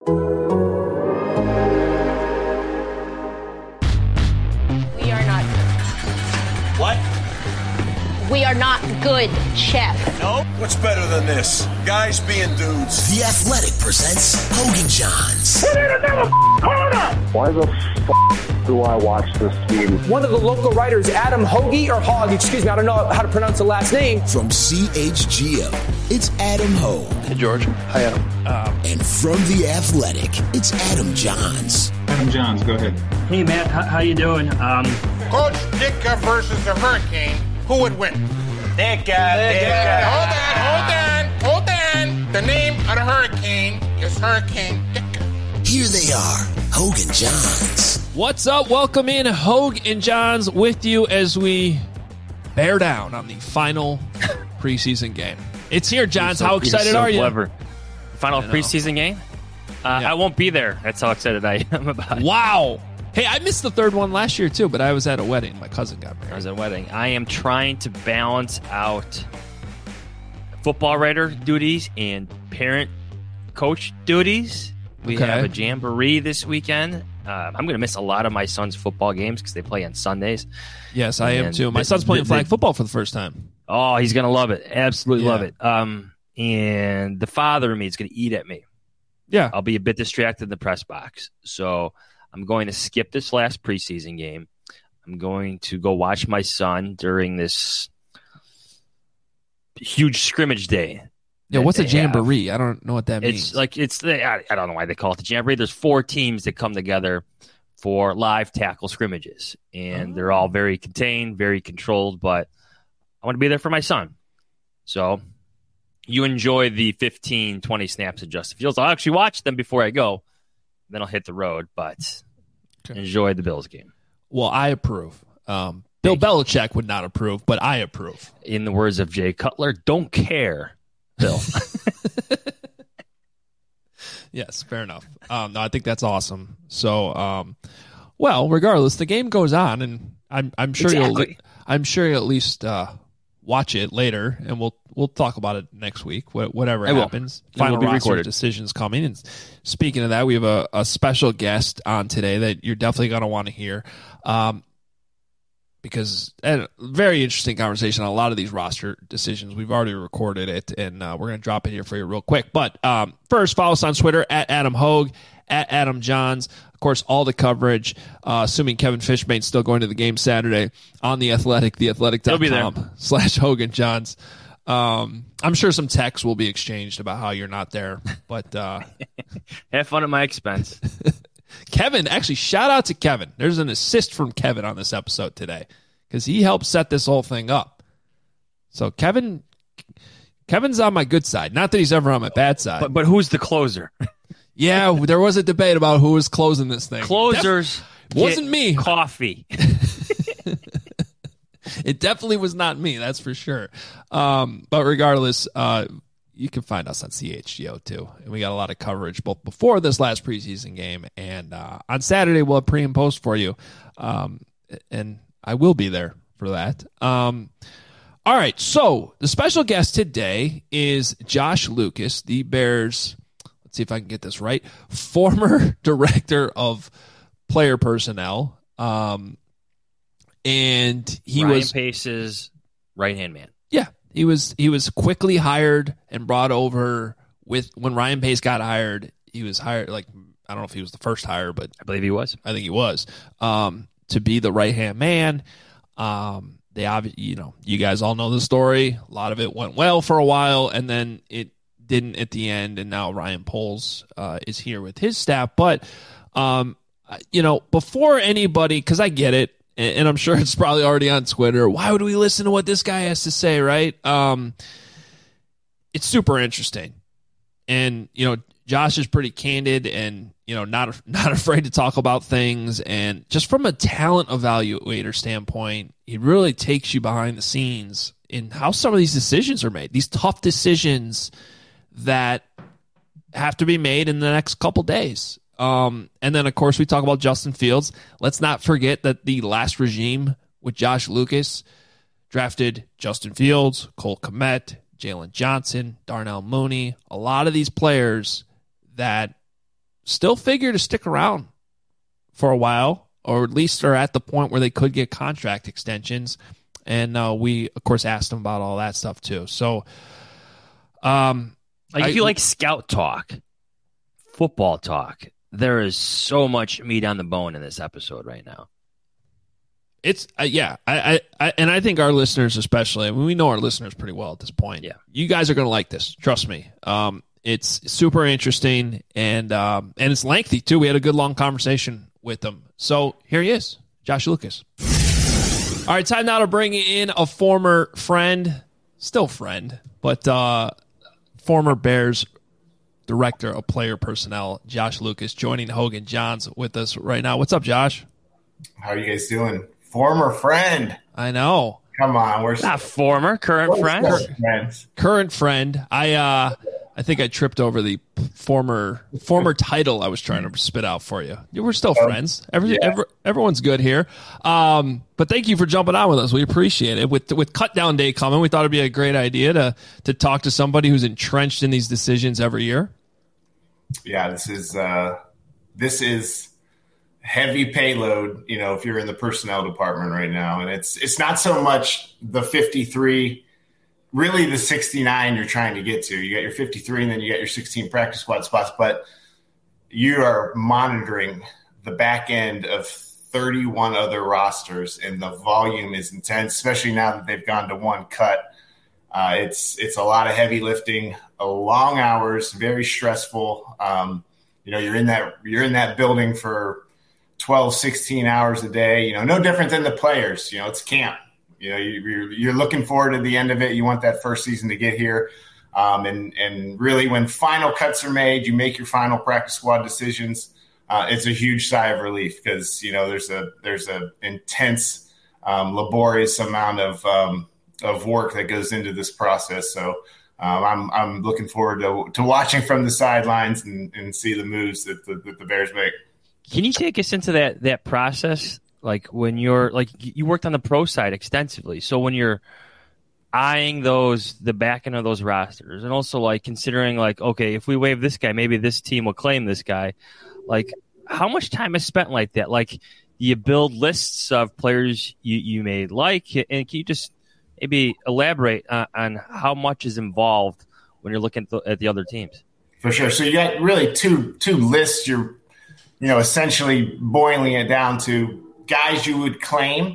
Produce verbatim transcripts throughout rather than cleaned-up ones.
We are not good. What? We are not good, Chef. No? What's better than this? Guys being dudes. The Athletic presents Hogan Johns. Put in another corner! Why the f*** do I watch this team? One of the local writers, Adam Hoagie, or Hogg, excuse me, I don't know how to pronounce the last name. From C H G O, it's Adam Hogue. Hey, George. Hi, Adam. Um, and from The Athletic, it's Adam Johns. Adam Johns, go ahead. Hey, Matt, how, how you doing? Um, Coach Ditka versus the Hurricane, who would win? Ditka, Ditka. Hold on, hold on, hold on. The name of the Hurricane is Hurricane Ditka. Here they are, Hogue and Johns. What's up? Welcome in, Hogue and Johns, with you as we bear down on the final preseason game. It's here, Johns. So, how excited so are you? Clever. Final preseason game? Uh, yeah. I won't be there. That's how excited I am about it. Wow. Hey, I missed the third one last year, too, but I was at a wedding. My cousin got married. I was at a wedding. I am trying to balance out football writer duties and parent coach duties. We okay. have a jamboree this weekend. Uh, I'm going to miss a lot of my son's football games because they play on Sundays. Yes, I and am, too. My the, son's playing the, flag the, football for the first time. Oh, he's going to love it. Absolutely yeah. love it. Um, and the father in me is going to eat at me. Yeah. I'll be a bit distracted in the press box. So I'm going to skip this last preseason game. I'm going to go watch my son during this huge scrimmage day. Yeah, what's a jamboree? Have. I don't know what that means. It's like it's the, I, I don't know why they call it the jamboree. There's four teams that come together for live tackle scrimmages, and oh. they're all very contained, very controlled. But I want to be there for my son. So you enjoy the fifteen, twenty snaps of Justin Fields. I'll actually watch them before I go. Then I'll hit the road, but okay. enjoy the Bills game. Well, I approve. Um, Bill Belichick would not approve, but I approve. In the words of Jay Cutler, don't care, Bill. Yes, fair enough. Um, no, I think that's awesome. So, um, well, regardless, the game goes on, and I'm I'm sure exactly. you'll I'm sure you'll at least uh, watch it later, and we'll we'll talk about it next week. Whatever I happens, will. final will roster recorded. decisions coming. And speaking of that, we have a, a special guest on today that you're definitely going to want to hear. Um, Because a very interesting conversation on a lot of these roster decisions. We've already recorded it, and uh, we're going to drop it here for you real quick. But um, first, follow us on Twitter, at Adam Hogue, at Adam Johns. Of course, all the coverage, uh, assuming Kevin Fishbane's still going to the game Saturday, on The Athletic, the athletic dot com slash Hogan Johns. Um, I'm sure some texts will be exchanged about how you're not there. But uh, have fun at my expense. Kevin, actually, shout out to Kevin. There's an assist from Kevin on this episode today because he helped set this whole thing up. So Kevin, Kevin's on my good side. Not that he's ever on my bad side. But, but who's the closer? Yeah, there was a debate about who was closing this thing. Closers Def- wasn't me. Coffee. It definitely was not me, that's for sure. Um, but regardless, uh, you can find us on C H G O too. And we got a lot of coverage both before this last preseason game and uh, on Saturday we'll have pre and post for you. Um, and I will be there for that. Um, all right, so the special guest today is Josh Lucas, the Bears, let's see if I can get this right, former director of player personnel. Um, and he Ryan was Pace's right-hand man. Yeah. He was he was quickly hired and brought over with when Ryan Pace got hired. He was hired like I don't know if he was the first hire, but I believe he was. I think he was um, to be the right hand man. Um, they obviously, you know, you guys all know the story. A lot of it went well for a while, and then it didn't at the end. And now Ryan Poles uh, is here with his staff. But um, you know, before anybody, because I get it. And I'm sure it's probably already on Twitter. Why would we listen to what this guy has to say, right? Um, it's super interesting. And, you know, Josh is pretty candid and, you know, not not afraid to talk about things. And just from a talent evaluator standpoint, he really takes you behind the scenes in how some of these decisions are made. These tough decisions that have to be made in the next couple days. Um, and then, of course, we talk about Justin Fields. Let's not forget that the last regime with Josh Lucas drafted Justin Fields, Cole Kmet, Jalen Johnson, Darnell Mooney, a lot of these players that still figure to stick around for a while, or at least are at the point where they could get contract extensions. And uh, we, of course, asked them about all that stuff too. So, um, like, I, if you like scout talk, football talk, there is so much meat on the bone in this episode right now. It's uh, yeah, I, I, I, and I think our listeners, especially, I mean, we know our listeners pretty well at this point. Yeah, you guys are going to like this. Trust me. Um, it's super interesting, and um, and it's lengthy too. We had a good long conversation with them. So here he is, Josh Lucas. All right, time now to bring in a former friend, still friend, but uh, former Bears director of player personnel, Josh Lucas, joining Hogan Johns with us right now. What's up, Josh? How are you guys doing? Former friend. I know. Come on, we're not former, current friend. friends. Current friend. I uh, I think I tripped over the former former title I was trying to spit out for you. We're still Oh, friends. Every, yeah. every, everyone's good here. Um, but thank you for jumping on with us. We appreciate it. With with cut down day coming, we thought it'd be a great idea to to talk to somebody who's entrenched in these decisions every year. Yeah, this is uh, this is heavy payload. You know, if you're in the personnel department right now, and it's it's not so much the fifty-three. Really, the sixty-nine you're trying to get to. You got your fifty-three, and then you got your sixteen practice squad spots. But you are monitoring the back end of thirty-one other rosters, and the volume is intense, especially now that they've gone to one cut. Uh, it's it's a lot of heavy lifting, a long hours, very stressful. Um, you know, you're in that you're in that building for twelve, sixteen hours a day. You know, no different than the players. You know, it's camp. You know, you're, you're looking forward to the end of it. You want that first season to get here. Um, and, and really when final cuts are made, you make your final practice squad decisions. Uh, it's a huge sigh of relief because, you know, there's a there's a intense, um, laborious amount of um, of work that goes into this process. So um, I'm I'm looking forward to, to watching from the sidelines and, and see the moves that the, that the Bears make. Can you take us into that that process? Like when you're like you worked on the pro side extensively. So when you're eyeing those the back end of those rosters and also like considering like, okay, if we waive this guy, maybe this team will claim this guy. Like how much time is spent like that? Like you build lists of players you, you may like, and can you just maybe elaborate on, on how much is involved when you're looking at the, at the other teams? For sure. So you got really two two lists. You're you know essentially boiling it down to guys you would claim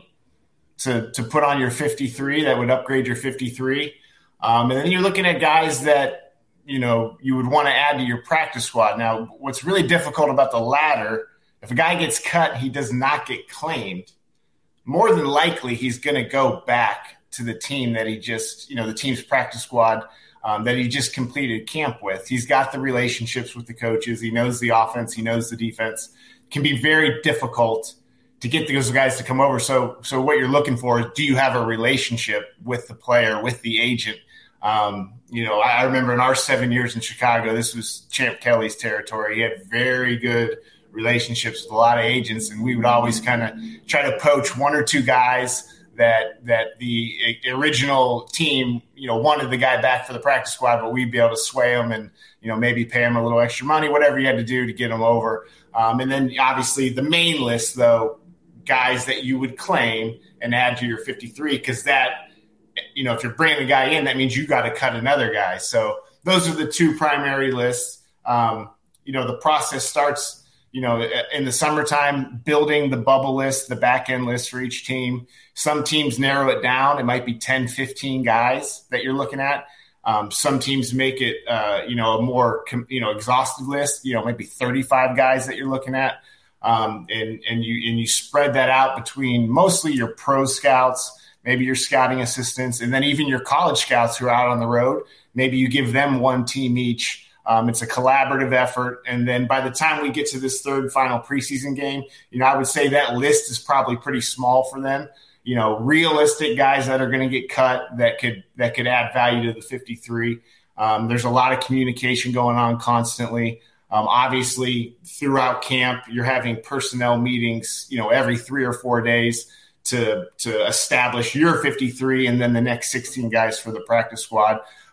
to to put on your fifty-three that would upgrade your fifty-three. Um, and then you're looking at guys that, you know, you would want to add to your practice squad. Now, what's really difficult about the latter, if a guy gets cut, he does not get claimed. More than likely, he's going to go back to the team that he just, you know, the team's practice squad um, that he just completed camp with. He's got the relationships with the coaches. He knows the offense. He knows the defense. It can be very difficult to get those guys to come over. So so what you're looking for is, do you have a relationship with the player, with the agent? Um, you know, I remember in our seven years in Chicago, this was Champ Kelly's territory. He had very good relationships with a lot of agents, and we would always kind of try to poach one or two guys that that the original team, you know, wanted the guy back for the practice squad, but we'd be able to sway him and, you know, maybe pay him a little extra money, whatever you had to do to get him over. Um, and then obviously the main list, though, guys that you would claim and add to your fifty-three, because that, you know, if you're bringing a guy in, that means you got to cut another guy. So those are the two primary lists. Um, you know, the process starts, you know, in the summertime, building the bubble list, the back end list for each team. Some teams narrow it down. It might be ten, fifteen guys that you're looking at. Um, some teams make it, uh, you know, a more, you know, exhaustive list, you know, maybe thirty-five guys that you're looking at. Um, and, and you and you spread that out between mostly your pro scouts, maybe your scouting assistants, and then even your college scouts who are out on the road. Maybe you give them one team each. Um, it's a collaborative effort. And then by the time we get to this third final preseason game, you know, I would say that list is probably pretty small for them. You know, realistic guys that are going to get cut that could that could add value to the fifty-three. Um, there's a lot of communication going on constantly. Um, obviously, throughout camp, you're having personnel meetings, you know, every three or four days to to establish your fifty-three and then the next sixteen guys for the practice squad.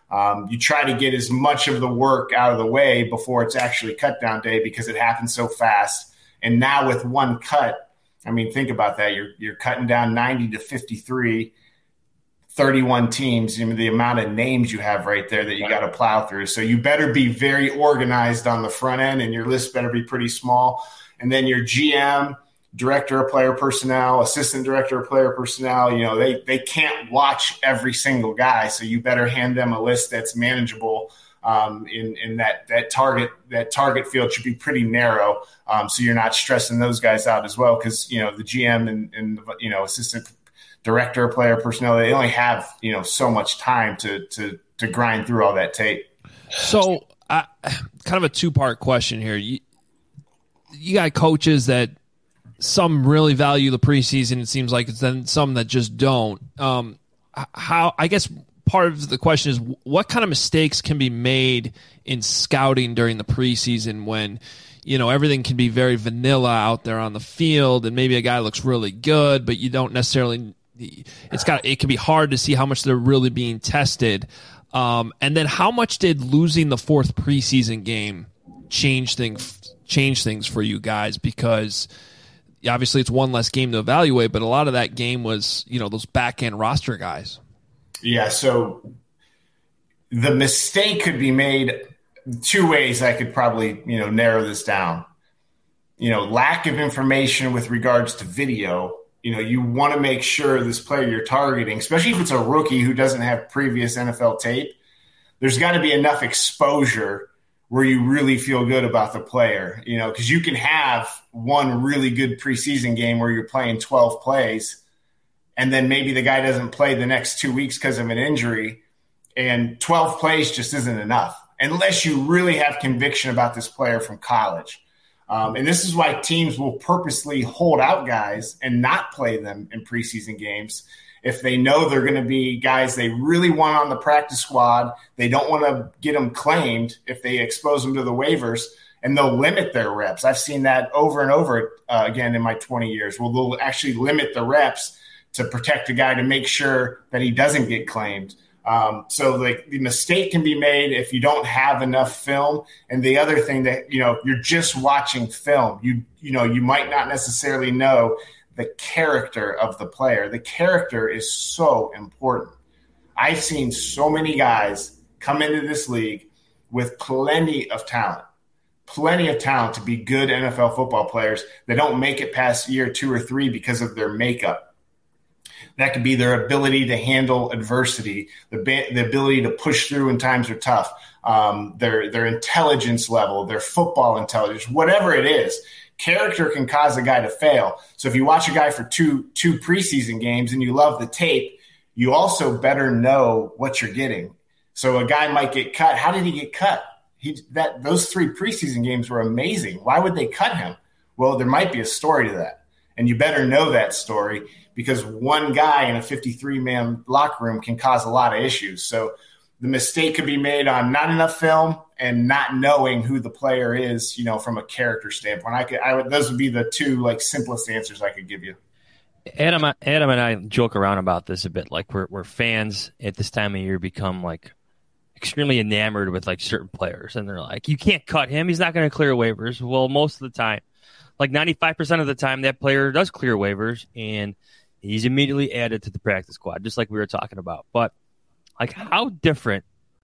Um, you try to get as much of the work out of the way before it's actually cut down day because it happens so fast. And now with one cut, I mean, think about that. You're you're cutting down ninety to fifty-three, thirty-one teams. I mean, the amount of names you have right there that you got to plow through. So you better be very organized on the front end, and your list better be pretty small. And then your G M, director of player personnel, assistant director of player personnel, you know, they they can't watch every single guy. So you better hand them a list that's manageable. Um, in, in that, that target, that target field should be pretty narrow. Um, so you're not stressing those guys out as well. Cause you know, the G M and, and, you know, assistant director of player personnel, they only have, you know, so much time to, to, to grind through all that tape. So uh, kind of a two part question here. You, you got coaches that some really value the preseason. It seems like it's then some that just don't. Um, how, I guess, part of the question is what kind of mistakes can be made in scouting during the preseason when, you know, everything can be very vanilla out there on the field and maybe a guy looks really good, but you don't necessarily, it's got, it can be hard to see how much they're really being tested. Um, and then how much did losing the fourth preseason game change things, change things for you guys? Because obviously it's one less game to evaluate, but a lot of that game was, you know, those back end roster guys. Yeah, so the mistake could be made two ways. I could probably, you know, narrow this down. You know, lack of information with regards to video. You know, you want to make sure this player you're targeting, especially if it's a rookie who doesn't have previous N F L tape, there's got to be enough exposure where you really feel good about the player, you know, because you can have one really good preseason game where you're playing twelve plays, and then maybe the guy doesn't play the next two weeks because of an injury, and twelve plays just isn't enough unless you really have conviction about this player from college. Um, and this is why teams will purposely hold out guys and not play them in preseason games if they know they're going to be guys they really want on the practice squad. They don't want to get them claimed if they expose them to the waivers, and they'll limit their reps. I've seen that over and over uh, again in my twenty years. Well, they'll actually limit the reps to protect a guy to make sure that he doesn't get claimed. Um, so like the mistake can be made if you don't have enough film. And the other thing that, you know, you're just watching film, you, you know, you might not necessarily know the character of the player. The character is so important. I've seen so many guys come into this league with plenty of talent, plenty of talent to be good N F L football players that don't make it past year two or three because of their makeup. That could be their ability to handle adversity, the, the ability to push through when times are tough, um, their their intelligence level, their football intelligence, whatever it is. Character can cause a guy to fail. So if you watch a guy for two two preseason games and you love the tape, you also better know what you're getting. So a guy might get cut. How did he get cut? He that those three preseason games were amazing. Why would they cut him? Well, there might be a story to that, and you better know that story, because one guy in a fifty-three man locker room can cause a lot of issues. So the mistake could be made on not enough film and not knowing who the player is, you know, from a character standpoint. I could, I would, those would be the two like simplest answers I could give you. Adam, Adam and I joke around about this a bit. Like we're we're fans at this time of year become like extremely enamored with like certain players, and they're like, you can't cut him. He's not going to clear waivers. Well, most of the time, like ninety-five percent of the time, that player does clear waivers, and he's immediately added to the practice squad, just like we were talking about. But like, how different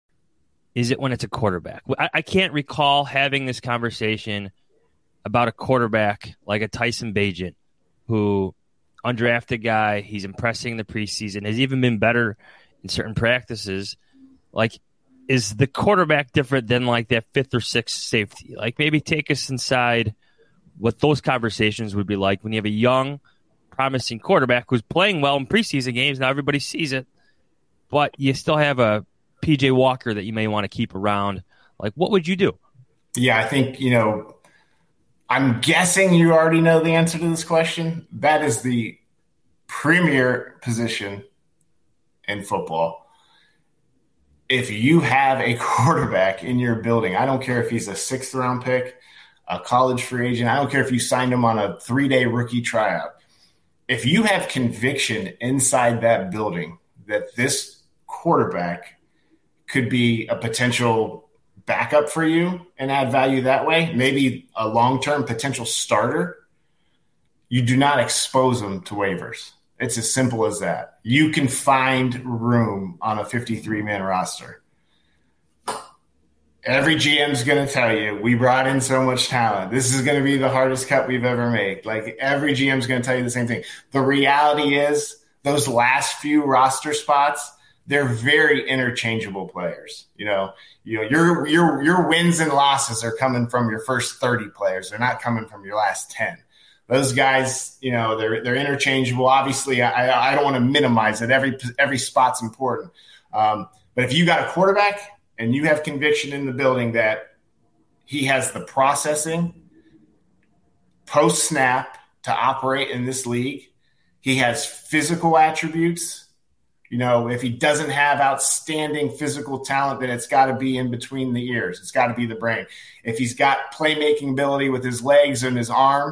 is it when it's a quarterback? I, I can't recall having this conversation about a quarterback like a Tyson Bagent, who undrafted guy, he's impressing the preseason, has even been better in certain practices. Like, is the quarterback different than like that fifth or sixth safety? Like, maybe take us inside what those conversations would be like when you have a young, promising quarterback who's playing well in preseason games. Now everybody sees it, but you still have a P J Walker that you may want to keep around. Like, what would you do? Yeah, I think, you know, I'm guessing you already know the answer to this question. That is the premier position in football. If you have a quarterback in your building, I don't care if he's a sixth round pick, a college free agent, I don't care if you signed him on a three-day rookie tryout. If you have conviction inside that building that this quarterback could be a potential backup for you and add value that way, maybe a long-term potential starter, you do not expose them to waivers. It's as simple as that. You can find room on a fifty-three man roster. Every G M is going to tell you, we brought in so much talent. This is going to be the hardest cut we've ever made. Like, every G M is going to tell you the same thing. The reality is those last few roster spots, they're very interchangeable players. You know, you know, your your your wins and losses are coming from your first thirty players. They're not coming from your last ten. Those guys, you know, they're they're interchangeable. Obviously, I I don't want to minimize it. Every every spot's important. Um, but if you got a quarterback and you have conviction in the building that he has the processing post snap to operate in this league, he has physical attributes. You know, if he doesn't have outstanding physical talent, then it's got to be in between the ears. It's got to be the brain. If he's got playmaking ability with his legs and his arm,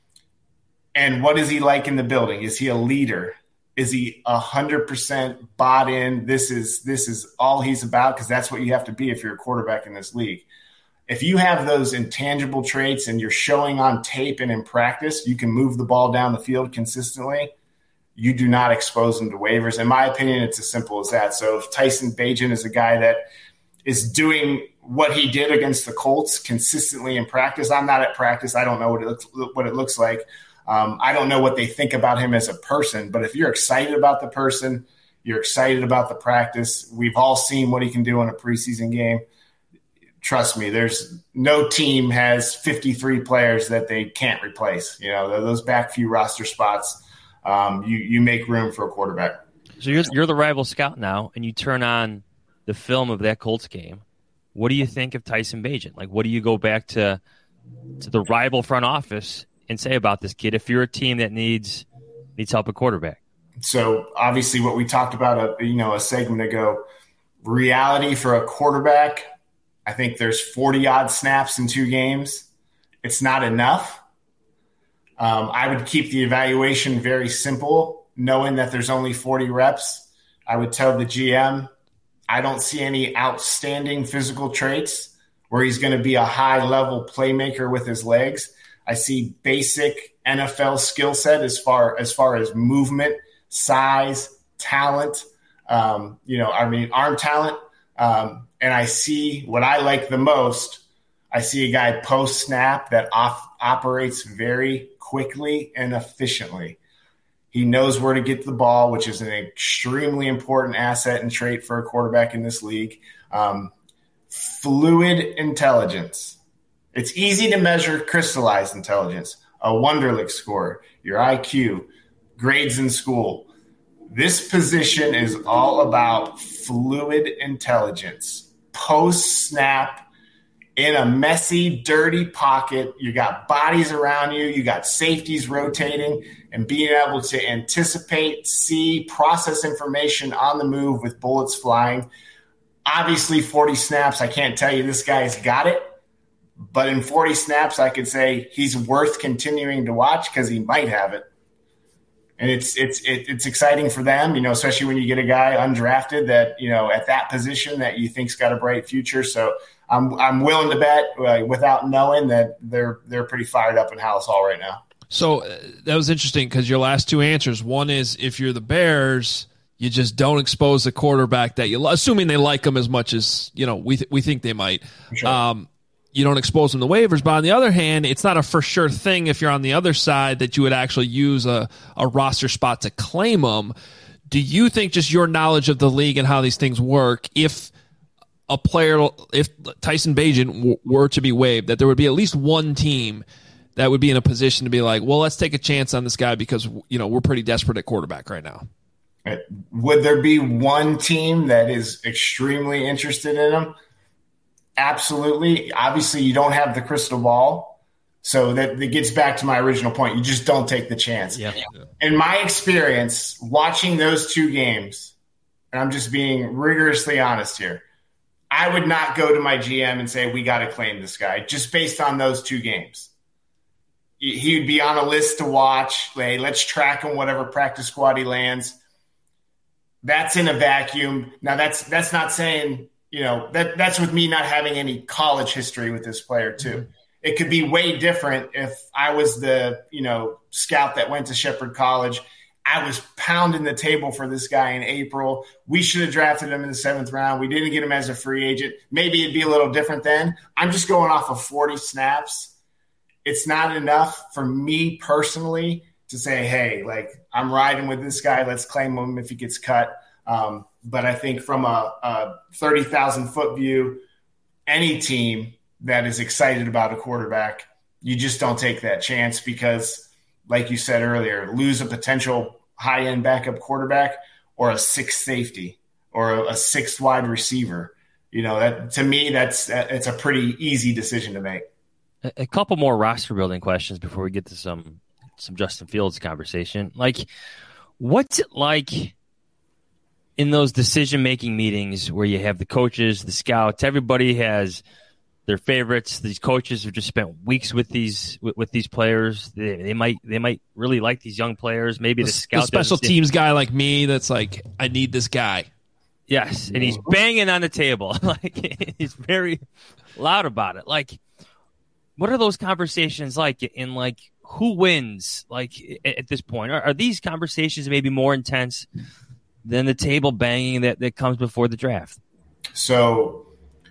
and what is he like in the building? Is he a leader? Is he one hundred percent bought in? This is this is all he's about, because that's what you have to be if you're a quarterback in this league. If you have those intangible traits and you're showing on tape and in practice, you can move the ball down the field consistently, you do not expose them to waivers. In my opinion, it's as simple as that. So if Tyson Bagent is a guy that is doing what he did against the Colts consistently in practice, I'm not at practice. I don't know what it looks, what it looks like. Um, I don't know what they think about him as a person, but if you're excited about the person, you're excited about the practice. We've all seen what he can do in a preseason game. Trust me, there's no team has fifty-three players that they can't replace. You know, those back few roster spots, um, you, you make room for a quarterback. So you're, you're the rival scout now, and you turn on the film of that Colts game. What do you think of Tyson Bagent? Like, what do you go back to to the rival front office and say about this kid if you're a team that needs needs help at quarterback? So obviously what we talked about a you know a segment ago, reality for a quarterback, I think there's forty odd snaps in two games. It's not enough. Um, I would keep the evaluation very simple, knowing that there's only forty reps. I would tell the G M, I don't see any outstanding physical traits where he's going to be a high level playmaker with his legs. I see basic N F L skill set as far as far as movement, size, talent. Um, you know, I mean, arm talent. Um, and I see what I like the most. I see a guy post snap that off, operates very quickly and efficiently. He knows where to get the ball, which is an extremely important asset and trait for a quarterback in this league. Um, fluid intelligence. It's easy to measure crystallized intelligence, a Wonderlic score, your I Q, grades in school. This position is all about fluid intelligence. Post-snap, in a messy, dirty pocket, you got bodies around you, you got safeties rotating, and being able to anticipate, see, process information on the move with bullets flying. Obviously, forty snaps, I can't tell you this guy's got it. But in forty snaps, I could say he's worth continuing to watch because he might have it. And it's it's it's exciting for them, you know, especially when you get a guy undrafted that, you know, at that position that you think's got a bright future. So I'm I'm willing to bet uh, without knowing that they're they're pretty fired up in Halas Hall right now. So uh, that was interesting because your last two answers. One is if you're the Bears, you just don't expose the quarterback that you, assuming they like him as much as you know we th- we think they might. Sure. Um, you don't expose them to waivers, but on the other hand, it's not a for sure thing if you're on the other side that you would actually use a, a roster spot to claim them. Do you think just your knowledge of the league and how these things work, if a player, if Tyson Bagent w- were to be waived, that there would be at least one team that would be in a position to be like, well, let's take a chance on this guy because, you know, we're pretty desperate at quarterback right now? Would there be one team that is extremely interested in him? Absolutely. Obviously, you don't have the crystal ball. So that, that gets back to my original point. You just don't take the chance. Yeah. In my experience, watching those two games, and I'm just being rigorously honest here, I would not go to my G M and say, we got to claim this guy just based on those two games. He would be on a list to watch. Hey, let's track him, whatever practice squad he lands. That's in a vacuum. Now, that's that's not saying you know, that that's with me not having any college history with this player too. Mm-hmm. It could be way different if I was the, you know, scout that went to Shepherd College. I was pounding the table for this guy in April. We should have drafted him in the seventh round. We didn't get him as a free agent. Maybe it'd be a little different then. I'm just going off of forty snaps. It's not enough for me personally to say, hey, like, I'm riding with this guy. Let's claim him if he gets cut. Um, but I think from a, a thirty thousand foot view, any team that is excited about a quarterback, you just don't take that chance because, like you said earlier, lose a potential high-end backup quarterback or a sixth safety or a, a sixth wide receiver. You know, that to me, that's it's a pretty easy decision to make. A, a couple more roster building questions before we get to some some Justin Fields conversation. Like, what's it like in those decision-making meetings where you have the coaches, the scouts, everybody has their favorites? These coaches have just spent weeks with these with, with these players. They, they might they might really like these young players. Maybe the, the scout, the special teams guy like me, that's like, I need this guy. Yes, and he's banging on the table, like he's very loud about it. Like, what are those conversations like? In like, who wins? Like at, at this point, are, are these conversations maybe more intense than the table banging that, that comes before the draft? So.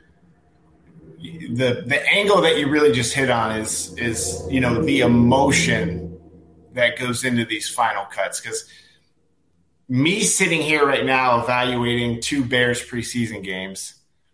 The the angle that you really just hit on is is you know the emotion that goes into these final cuts, because me sitting here right now evaluating two Bears preseason games,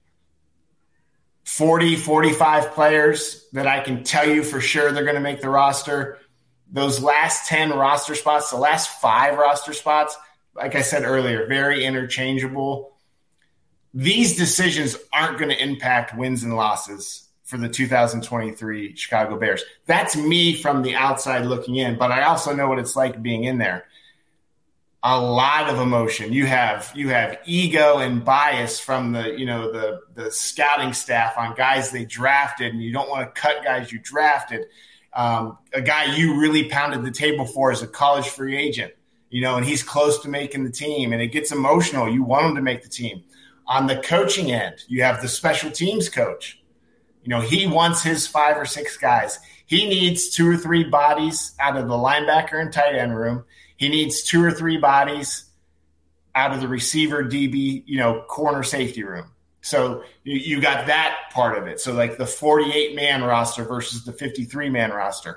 forty, forty-five players that I can tell you for sure they're going to make the roster. Those last ten roster spots, the last five roster spots, like I said earlier, very interchangeable. These decisions aren't going to impact wins and losses for the two thousand twenty-three Chicago Bears. That's me from the outside looking in, but I also know what it's like being in there. A lot of emotion. You have you have ego and bias from the you know the the scouting staff on guys they drafted, and you don't want to cut guys you drafted. Um, a guy you really pounded the table for as a college free agent, you know, and he's close to making the team, and it gets emotional. You want him to make the team. On the coaching end, you have the special teams coach. You know, he wants his five or six guys. He needs two or three bodies out of the linebacker and tight end room. He needs two or three bodies out of the receiver, D B, you know, corner safety room. So you, you got that part of it. So like the forty-eight man roster versus the fifty-three man roster.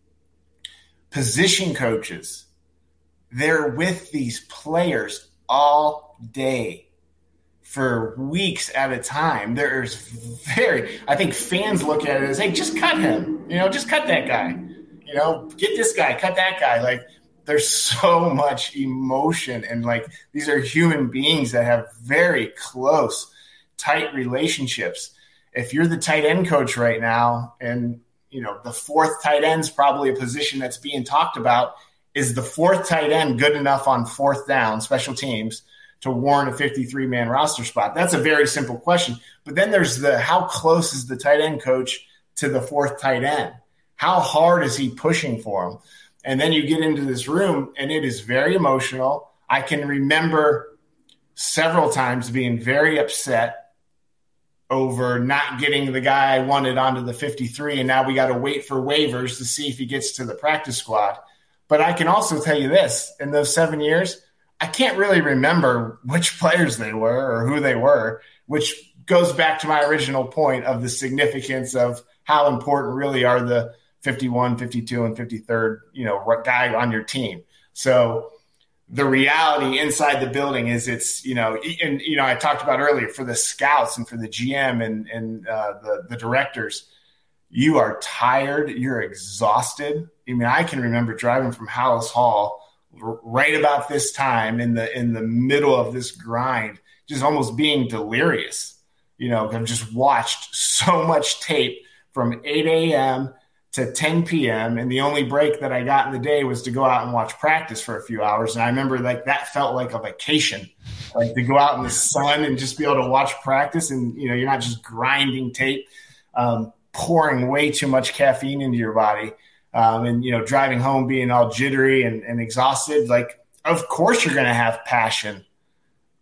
Position coaches, they're with these players all day, for weeks at a time. There's very, I think fans look at it as, hey, just cut him. You know, just cut that guy. You know, get this guy, cut that guy. Like, there's so much emotion, and like these are human beings that have very close, tight relationships. If you're the tight end coach right now, and you know the fourth tight end's probably a position that's being talked about, is the fourth tight end good enough on fourth down, special teams, to warrant a fifty-three man roster spot? That's a very simple question. But then there's the, how close is the tight end coach to the fourth tight end? How hard is he pushing for him? And then you get into this room, and it is very emotional. I can remember several times being very upset over not getting the guy I wanted onto the fifty-three, and now we got to wait for waivers to see if he gets to the practice squad. But I can also tell you this, in those seven years, I can't really remember which players they were or who they were, which goes back to my original point of the significance of how important really are the fifty-one, fifty-two, and fifty-third, you know, guy on your team. So the reality inside the building is it's, you know, and, you know, I talked about earlier for the scouts and for the G M and, and uh, the, the directors, you are tired, you're exhausted. I mean, I can remember driving from Hallis Hall right about this time in the in the middle of this grind, just almost being delirious. You know, I've just watched so much tape from eight a.m. to ten p.m. and the only break that I got in the day was to go out and watch practice for a few hours. And I remember like that felt like a vacation, like to go out in the sun and just be able to watch practice, and you know, you're not just grinding tape, um, pouring way too much caffeine into your body. Um, and, you know, driving home being all jittery and, and exhausted, like, of course you're going to have passion,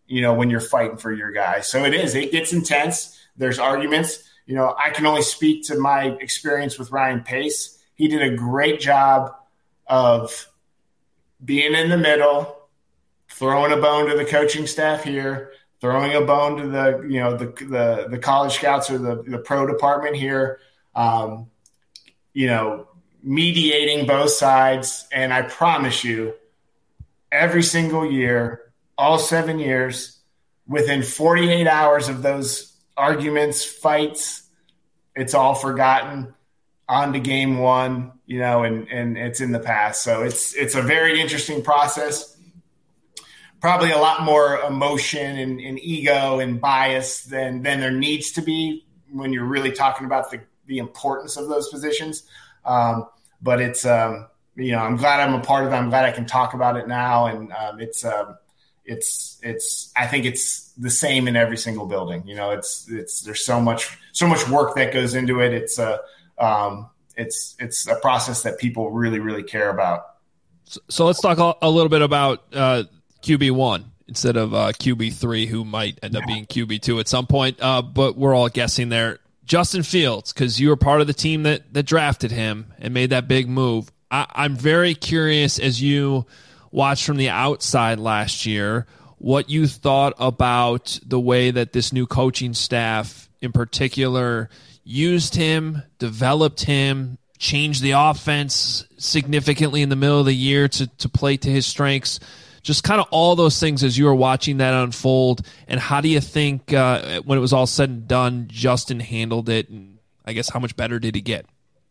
you know, when you're fighting for your guys. So it is, it gets intense. There's arguments. You know, I can only speak to my experience with Ryan Pace. He did a great job of being in the middle, throwing a bone to the coaching staff here, throwing a bone to the, you know, the the, the college scouts or the, the pro department here, um, you know, mediating both sides. And I promise you, every single year, all seven years, within forty-eight hours of those arguments, fights, it's all forgotten. On to game one, you know, and, and it's in the past. So it's it's a very interesting process. Probably a lot more emotion and, and ego and bias than than there needs to be when you're really talking about the, the importance of those positions. Um, but it's, um, you know, I'm glad I'm a part of it. I'm glad I can talk about it now. And um, it's, um, it's, it's, I think it's the same in every single building. You know, it's, it's, there's so much, so much work that goes into it. It's a, um, it's, it's a process that people really, really care about. So, so let's talk a, a little bit about uh, Q B one instead of uh, Q B three, who might end up being Q B two at some point. Uh, but we're all guessing there. Justin Fields, because you were part of the team that, that drafted him and made that big move. I, I'm very curious, as you watched from the outside last year, what you thought about the way that this new coaching staff in particular used him, developed him, changed the offense significantly in the middle of the year to, to play to his strengths. Just kind of all those things as you were watching that unfold. And how do you think uh, when it was all said and done, Justin handled it? And I guess how much better did he get?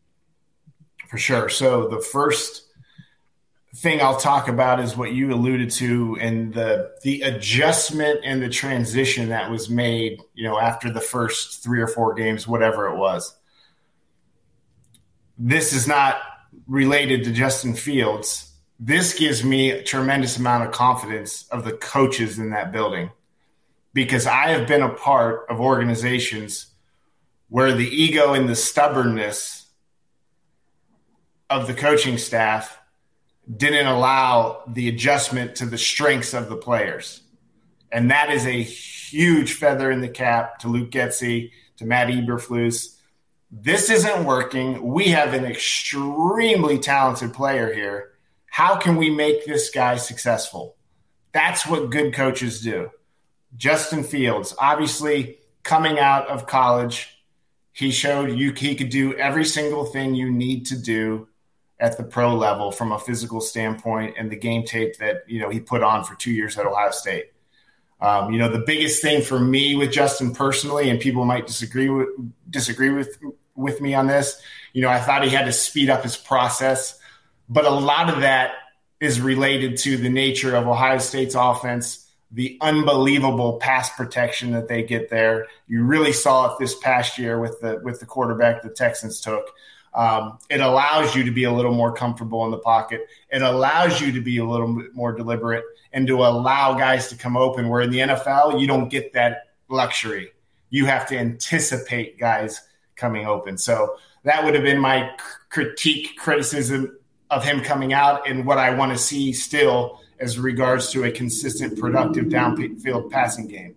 For sure. So the first thing I'll talk about is what you alluded to, and the the adjustment and the transition that was made, you know, after the first three or four games, whatever it was. This is not related to Justin Fields. This gives me a tremendous amount of confidence of the coaches in that building, because I have been a part of organizations where the ego and the stubbornness of the coaching staff didn't allow the adjustment to the strengths of the players. And that is a huge feather in the cap to Luke Getsy, to Matt Eberflus. This isn't working. We have an extremely talented player here. How can we make this guy successful? That's what good coaches do. Justin Fields, obviously coming out of college, he showed you he could do every single thing you need to do at the pro level from a physical standpoint, and the game tape that, you know, he put on for two years at Ohio State. Um, you know, the biggest thing for me with Justin personally, and people might disagree with disagree with with me on this, you know, I thought he had to speed up his process, but a lot of that is related to the nature of Ohio State's offense, the unbelievable pass protection that they get there. You really saw it this past year with the with the quarterback the Texans took. Um, it allows you to be a little more comfortable in the pocket. It allows you to be a little bit more deliberate and to allow guys to come open, where in the N F L, you don't get that luxury. You have to anticipate guys coming open. So that would have been my critique, criticism of him coming out, and what I want to see still as regards to a consistent, productive downfield passing game.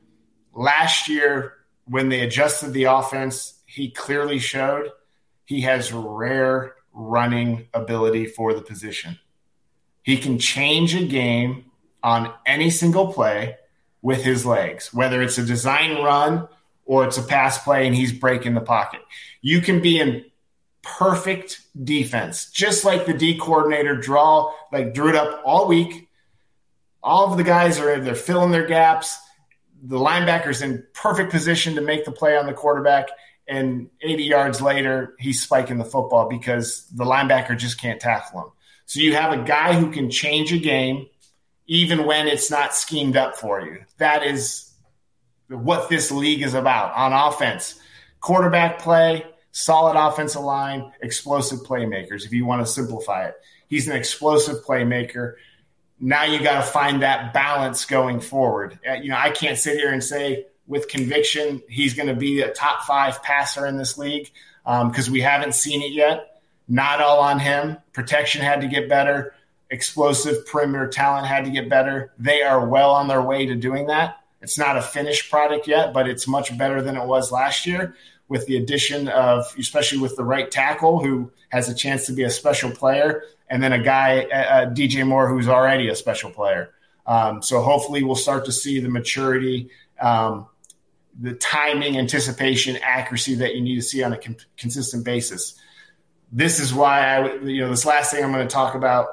Last year, when they adjusted the offense, he clearly showed he has rare running ability for the position. He can change a game on any single play with his legs, whether it's a design run or it's a pass play and he's breaking the pocket. You can be in perfect defense, just like the D coordinator draw, like drew it up all week. All of the guys are they're filling their gaps. The linebacker's in perfect position to make the play on the quarterback, and eighty yards later, he's spiking the football because the linebacker just can't tackle him. So you have a guy who can change a game even when it's not schemed up for you. That is what this league is about on offense. Quarterback play, solid offensive line, explosive playmakers, if you want to simplify it. He's an explosive playmaker. Now you got to find that balance going forward. You know, I can't sit here and say with conviction he's going to be a top five passer in this league because um, we haven't seen it yet. Not all on him. Protection had to get better. explosive perimeter talent had to get better. They are well on their way to doing that. It's not a finished product yet, but it's much better than it was last year with the addition of, especially with the right tackle who has a chance to be a special player, and then a guy, uh, D J Moore, who's already a special player. Um, so hopefully we'll start to see the maturity, um, the timing, anticipation, accuracy that you need to see on a con- consistent basis. This is why I, you know, this last thing I'm going to talk about,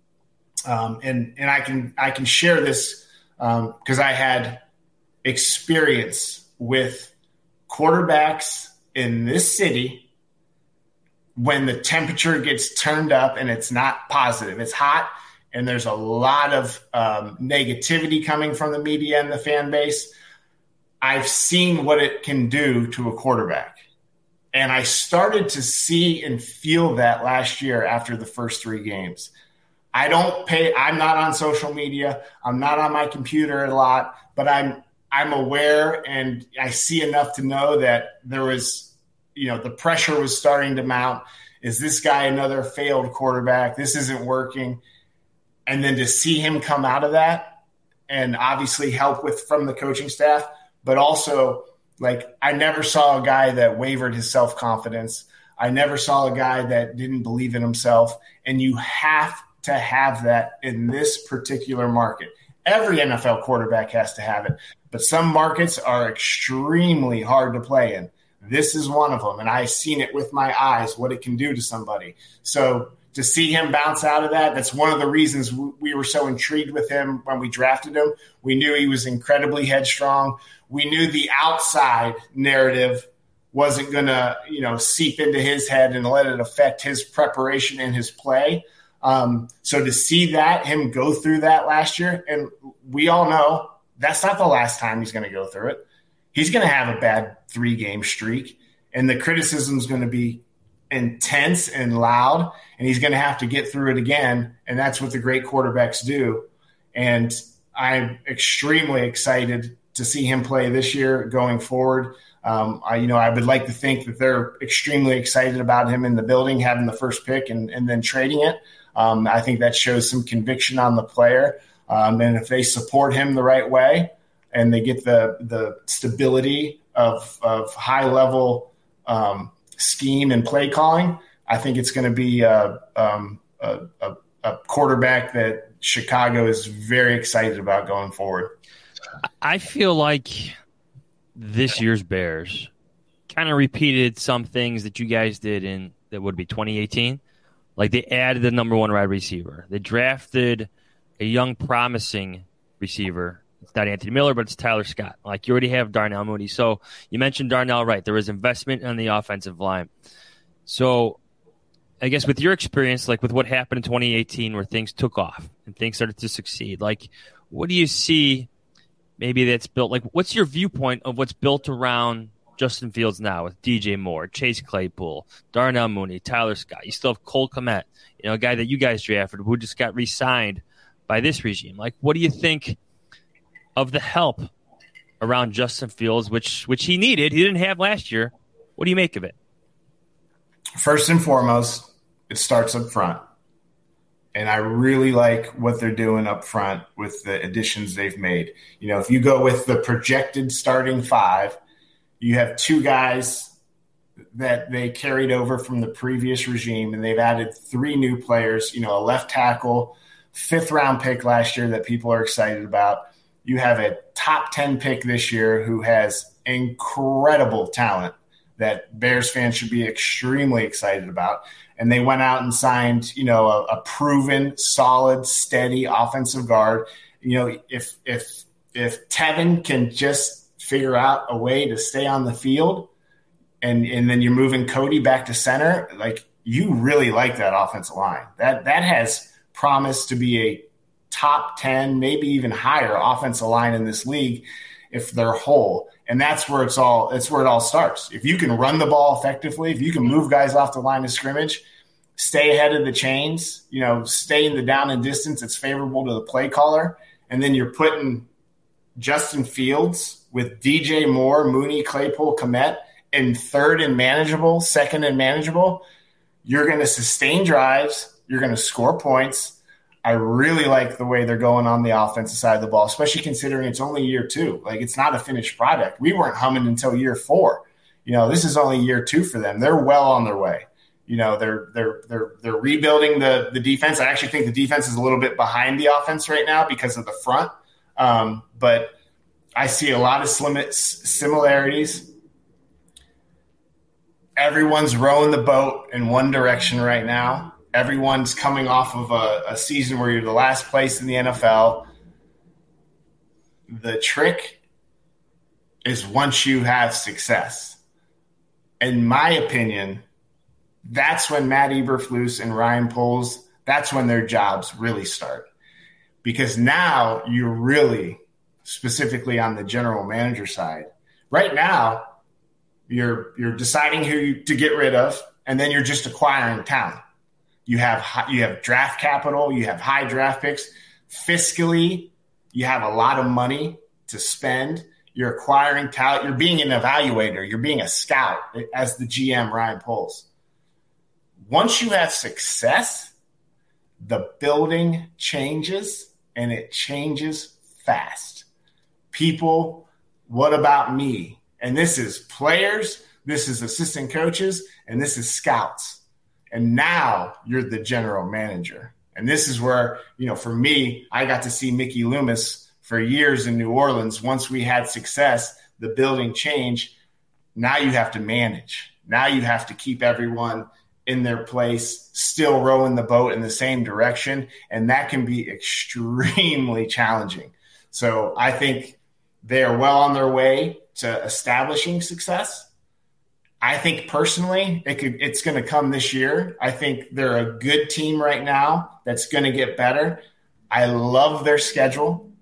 um, and and I can I can share this because um, I had experience with quarterbacks in this city when the temperature gets turned up and it's not positive. It's hot and there's a lot of um, negativity coming from the media and the fan base. I've seen what it can do to a quarterback. And I started to see and feel that last year after the first three games. I don't pay – I'm not on social media. I'm not on my computer a lot, but I'm I'm aware and I see enough to know that there was – you know, the pressure was starting to mount. Is this guy another failed quarterback? This isn't working. And then to see him come out of that and obviously help with from the coaching staff, but also like I never saw a guy that wavered his self-confidence. I never saw a guy that didn't believe in himself. And you have to have that in this particular market. Every N F L quarterback has to have it, but some markets are extremely hard to play in. This is one of them, and I've seen it with my eyes, what it can do to somebody. So to see him bounce out of that, that's one of the reasons we were so intrigued with him when we drafted him. We knew he was incredibly headstrong. We knew the outside narrative wasn't going to, you know, seep into his head and let it affect his preparation and his play. Um, so to see that, him go through that last year, and we all know that's not the last time he's going to go through it. He's going to have a bad three-game streak, and the criticism is going to be intense and loud, and he's going to have to get through it again, and that's what the great quarterbacks do. And I'm extremely excited to see him play this year going forward. Um, I, you know, I would like to think that they're extremely excited about him in the building, having the first pick and, and then trading it. Um, I think that shows some conviction on the player. Um, and if they support him the right way and they get the the stability of, of high-level um, scheme and play calling, I think it's going to be a, um, a, a, a quarterback that Chicago is very excited about going forward. I feel like this year's Bears kind of repeated some things that you guys did in that would be twenty eighteen. Like they added the number one wide receiver. They drafted a young, promising receiver. It's not Anthony Miller, but it's Tyler Scott. Like you already have Darnell Mooney. So you mentioned Darnell, right? There was investment on the offensive line. So I guess with your experience, like with what happened in twenty eighteen where things took off and things started to succeed, like what do you see maybe that's built? Like what's your viewpoint of what's built around Justin Fields now with D J Moore, Chase Claypool, Darnell Mooney, Tyler Scott? You still have Cole Kmet, you know, a guy that you guys drafted who just got re-signed by this regime. Like what do you think of the help around Justin Fields, which which he needed, he didn't have last year? What do you make of it? First and foremost, it starts up front. And I really like what they're doing up front with the additions they've made. You know, if you go with the projected starting five, you have two guys that they carried over from the previous regime, and they've added three new players, you know, a left tackle, fifth round pick last year that people are excited about. You have a top ten pick this year who has incredible talent that Bears fans should be extremely excited about. And they went out and signed, you know, a, a proven, solid, steady offensive guard. You know, if if if Tevin can just figure out a way to stay on the field, and and then you're moving Cody back to center, like you really like that offensive line. That that has promised to be a top ten, maybe even higher offensive line in this league if they're whole. And that's where it's all, that's where it all starts. If you can run the ball effectively, if you can move guys off the line of scrimmage, stay ahead of the chains, you know, stay in the down and distance that's favorable to the play caller, and then you're putting Justin Fields with D J Moore, Mooney, Claypool, Kmet in third and manageable, second and manageable, you're going to sustain drives, you're going to score points. I really like the way they're going on the offensive side of the ball, especially considering it's only year two. Like, it's not a finished product. We weren't humming until year four. You know, this is only year two for them. They're well on their way. You know, they're they're they're they're rebuilding the the defense. I actually think the defense is a little bit behind the offense right now because of the front. Um, but I see a lot of slim- similarities. Everyone's rowing the boat in one direction right now. Everyone's coming off of a, a season where you're the last place in the N F L. The trick is once you have success. In my opinion, that's when Matt Eberflus and Ryan Poles, that's when their jobs really start. Because now you're really specifically on the general manager side. Right now, you're you're deciding who you, to get rid of, and then you're just acquiring talent. You have you have draft capital. You have high draft picks. Fiscally, you have a lot of money to spend. You're acquiring talent. You're being an evaluator. You're being a scout as the G M, Ryan Poles. Once you have success, the building changes, and it changes fast. People, what about me? And this is players, this is assistant coaches, and this is scouts. And now you're the general manager. And this is where, you know, for me, I got to see Mickey Loomis for years in New Orleans. Once we had success, the building changed. Now you have to manage. Now you have to keep everyone in their place, still rowing the boat in the same direction. And that can be extremely challenging. So I think they are well on their way to establishing success. I think personally, it could, it's going to come this year. I think they're a good team right now that's going to get better. I love their schedule.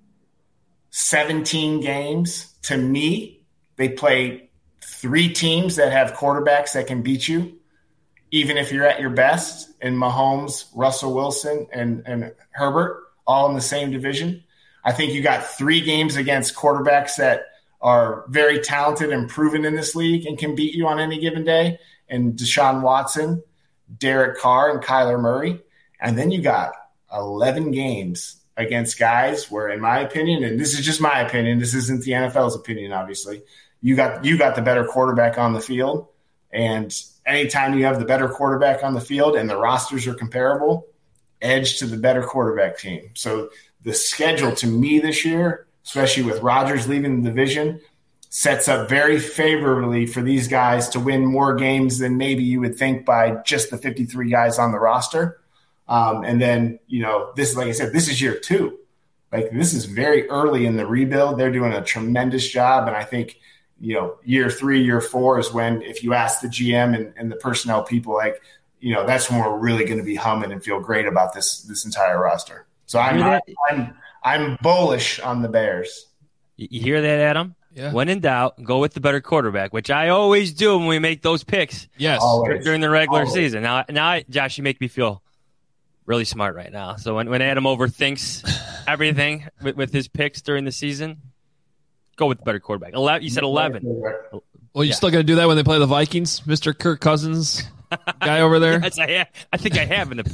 seventeen games. To me, they play three teams that have quarterbacks that can beat you, even if you're at your best, in Mahomes, Russell Wilson, and, and Herbert, all in the same division. I think you got three games against quarterbacks that are very talented and proven in this league and can beat you on any given day, and Deshaun Watson, Derek Carr, and Kyler Murray. And then you got eleven games against guys where, in my opinion, and this is just my opinion, this isn't the N F L's opinion, obviously, you got you got the better quarterback on the field. And anytime you have the better quarterback on the field and the rosters are comparable, edge to the better quarterback team. So the schedule to me this year, especially with Rodgers leaving the division, sets up very favorably for these guys to win more games than maybe you would think by just the fifty-three guys on the roster. Um, and then, you know, this, like I said, this is year two. Like, this is very early in the rebuild. They're doing a tremendous job. And I think, you know, year three, year four is when, if you ask the G M and, and the personnel people, like, you know, that's when we're really going to be humming and feel great about this, this entire roster. So I'm, I'm, I'm, I'm bullish on the Bears. You hear that, Adam? Yeah. When in doubt, go with the better quarterback, which I always do when we make those picks. Yes. Always. During the regular Always. season. Now, now, Josh, you make me feel really smart right now. So when, when Adam overthinks everything with, with his picks during the season, go with the better quarterback. eleven, you said eleven. Well, you Yeah. still going to do that when they play the Vikings, Mister Kirk Cousins guy over there? Yes, I, have. I think I have in the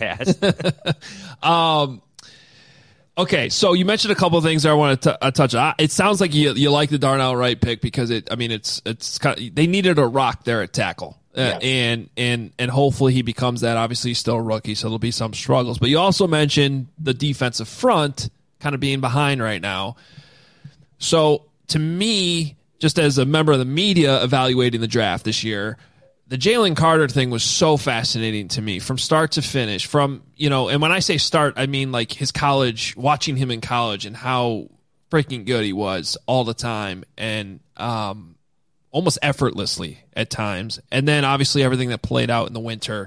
past. um, okay, so you mentioned a couple of things that I want to uh, touch on. It sounds like you you like the Darnell Wright pick because it. I mean, it's it's kind of, they needed a rock there at tackle, uh, Yeah. and and and hopefully he becomes that. Obviously, he's still a rookie, so there'll be some struggles. But you also mentioned the defensive front kind of being behind right now. So to me, just as a member of the media evaluating the draft this year, the Jalen Carter thing was so fascinating to me from start to finish. From, you know, and when I say start, I mean like his college, watching him in college and how freaking good he was all the time and um, almost effortlessly at times. And then obviously everything that played out in the winter.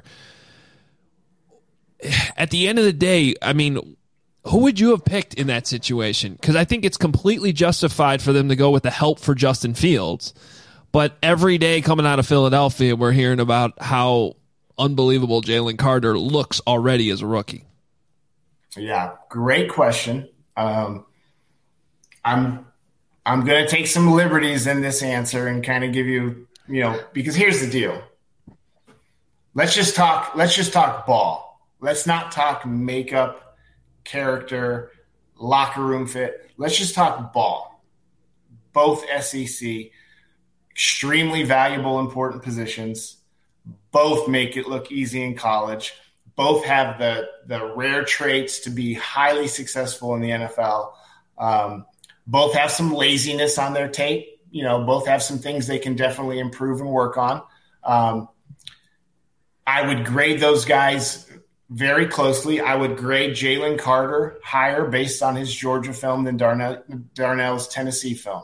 At the end of the day, I mean, who would you have picked in that situation? Because I think it's completely justified for them to go with the help for Justin Fields. But every day coming out of Philadelphia, we're hearing about how unbelievable Jalen Carter looks already as a rookie. Yeah, great question. Um, I'm I'm going to take some liberties in this answer and kind of give you, you know, because here's the deal. Let's just talk. Let's just talk ball. Let's not talk makeup, character, locker room fit. Let's just talk ball. Both S E C, extremely valuable, important positions. Both make it look easy in college. Both have the, the rare traits to be highly successful in the N F L. Um, both have some laziness on their tape. You know, both have some things they can definitely improve and work on. Um, I would grade those guys very closely. I would grade Jalen Carter higher based on his Georgia film than Darnell, Darnell's Tennessee film.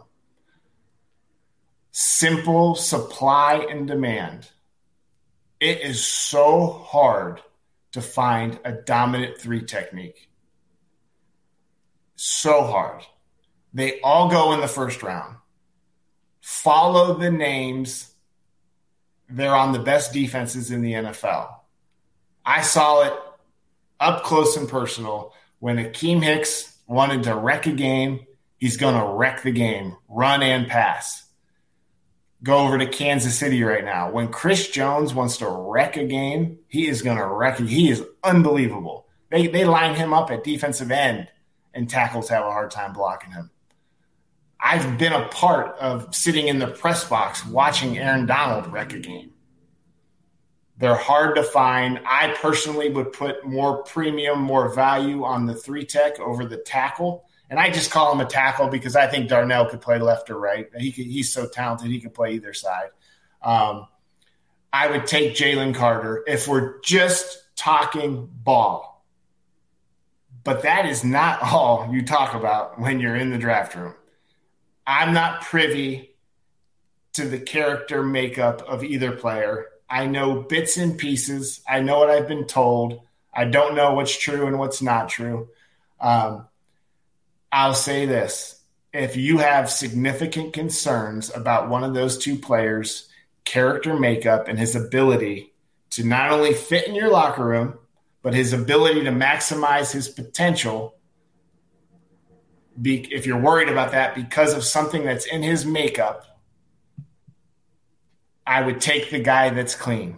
Simple supply and demand. It is so hard to find a dominant three technique. So hard. They all go in the first round. Follow the names. They're on the best defenses in the N F L. I saw it up close and personal when Akeem Hicks wanted to wreck a game. He's going to wreck the game, run and pass. Go over to Kansas City right now. When Chris Jones wants to wreck a game, he is going to wreck it. He is unbelievable. They they line him up at defensive end, and tackles have a hard time blocking him. I've been a part of sitting in the press box watching Aaron Donald wreck a game. They're hard to find. I personally would put more premium, more value on the three tech over the tackle. And I just call him a tackle because I think Darnell could play left or right. He could, he's so talented, he could play either side. Um, I would take Jalen Carter if we're just talking ball. But that is not all you talk about when you're in the draft room. I'm not privy to the character makeup of either player. I know bits and pieces. I know what I've been told. I don't know what's true and what's not true. Um, I'll say this. If you have significant concerns about one of those two players' character makeup and his ability to not only fit in your locker room, but his ability to maximize his potential, Be, if you're worried about that because of something that's in his makeup, I would take the guy that's clean.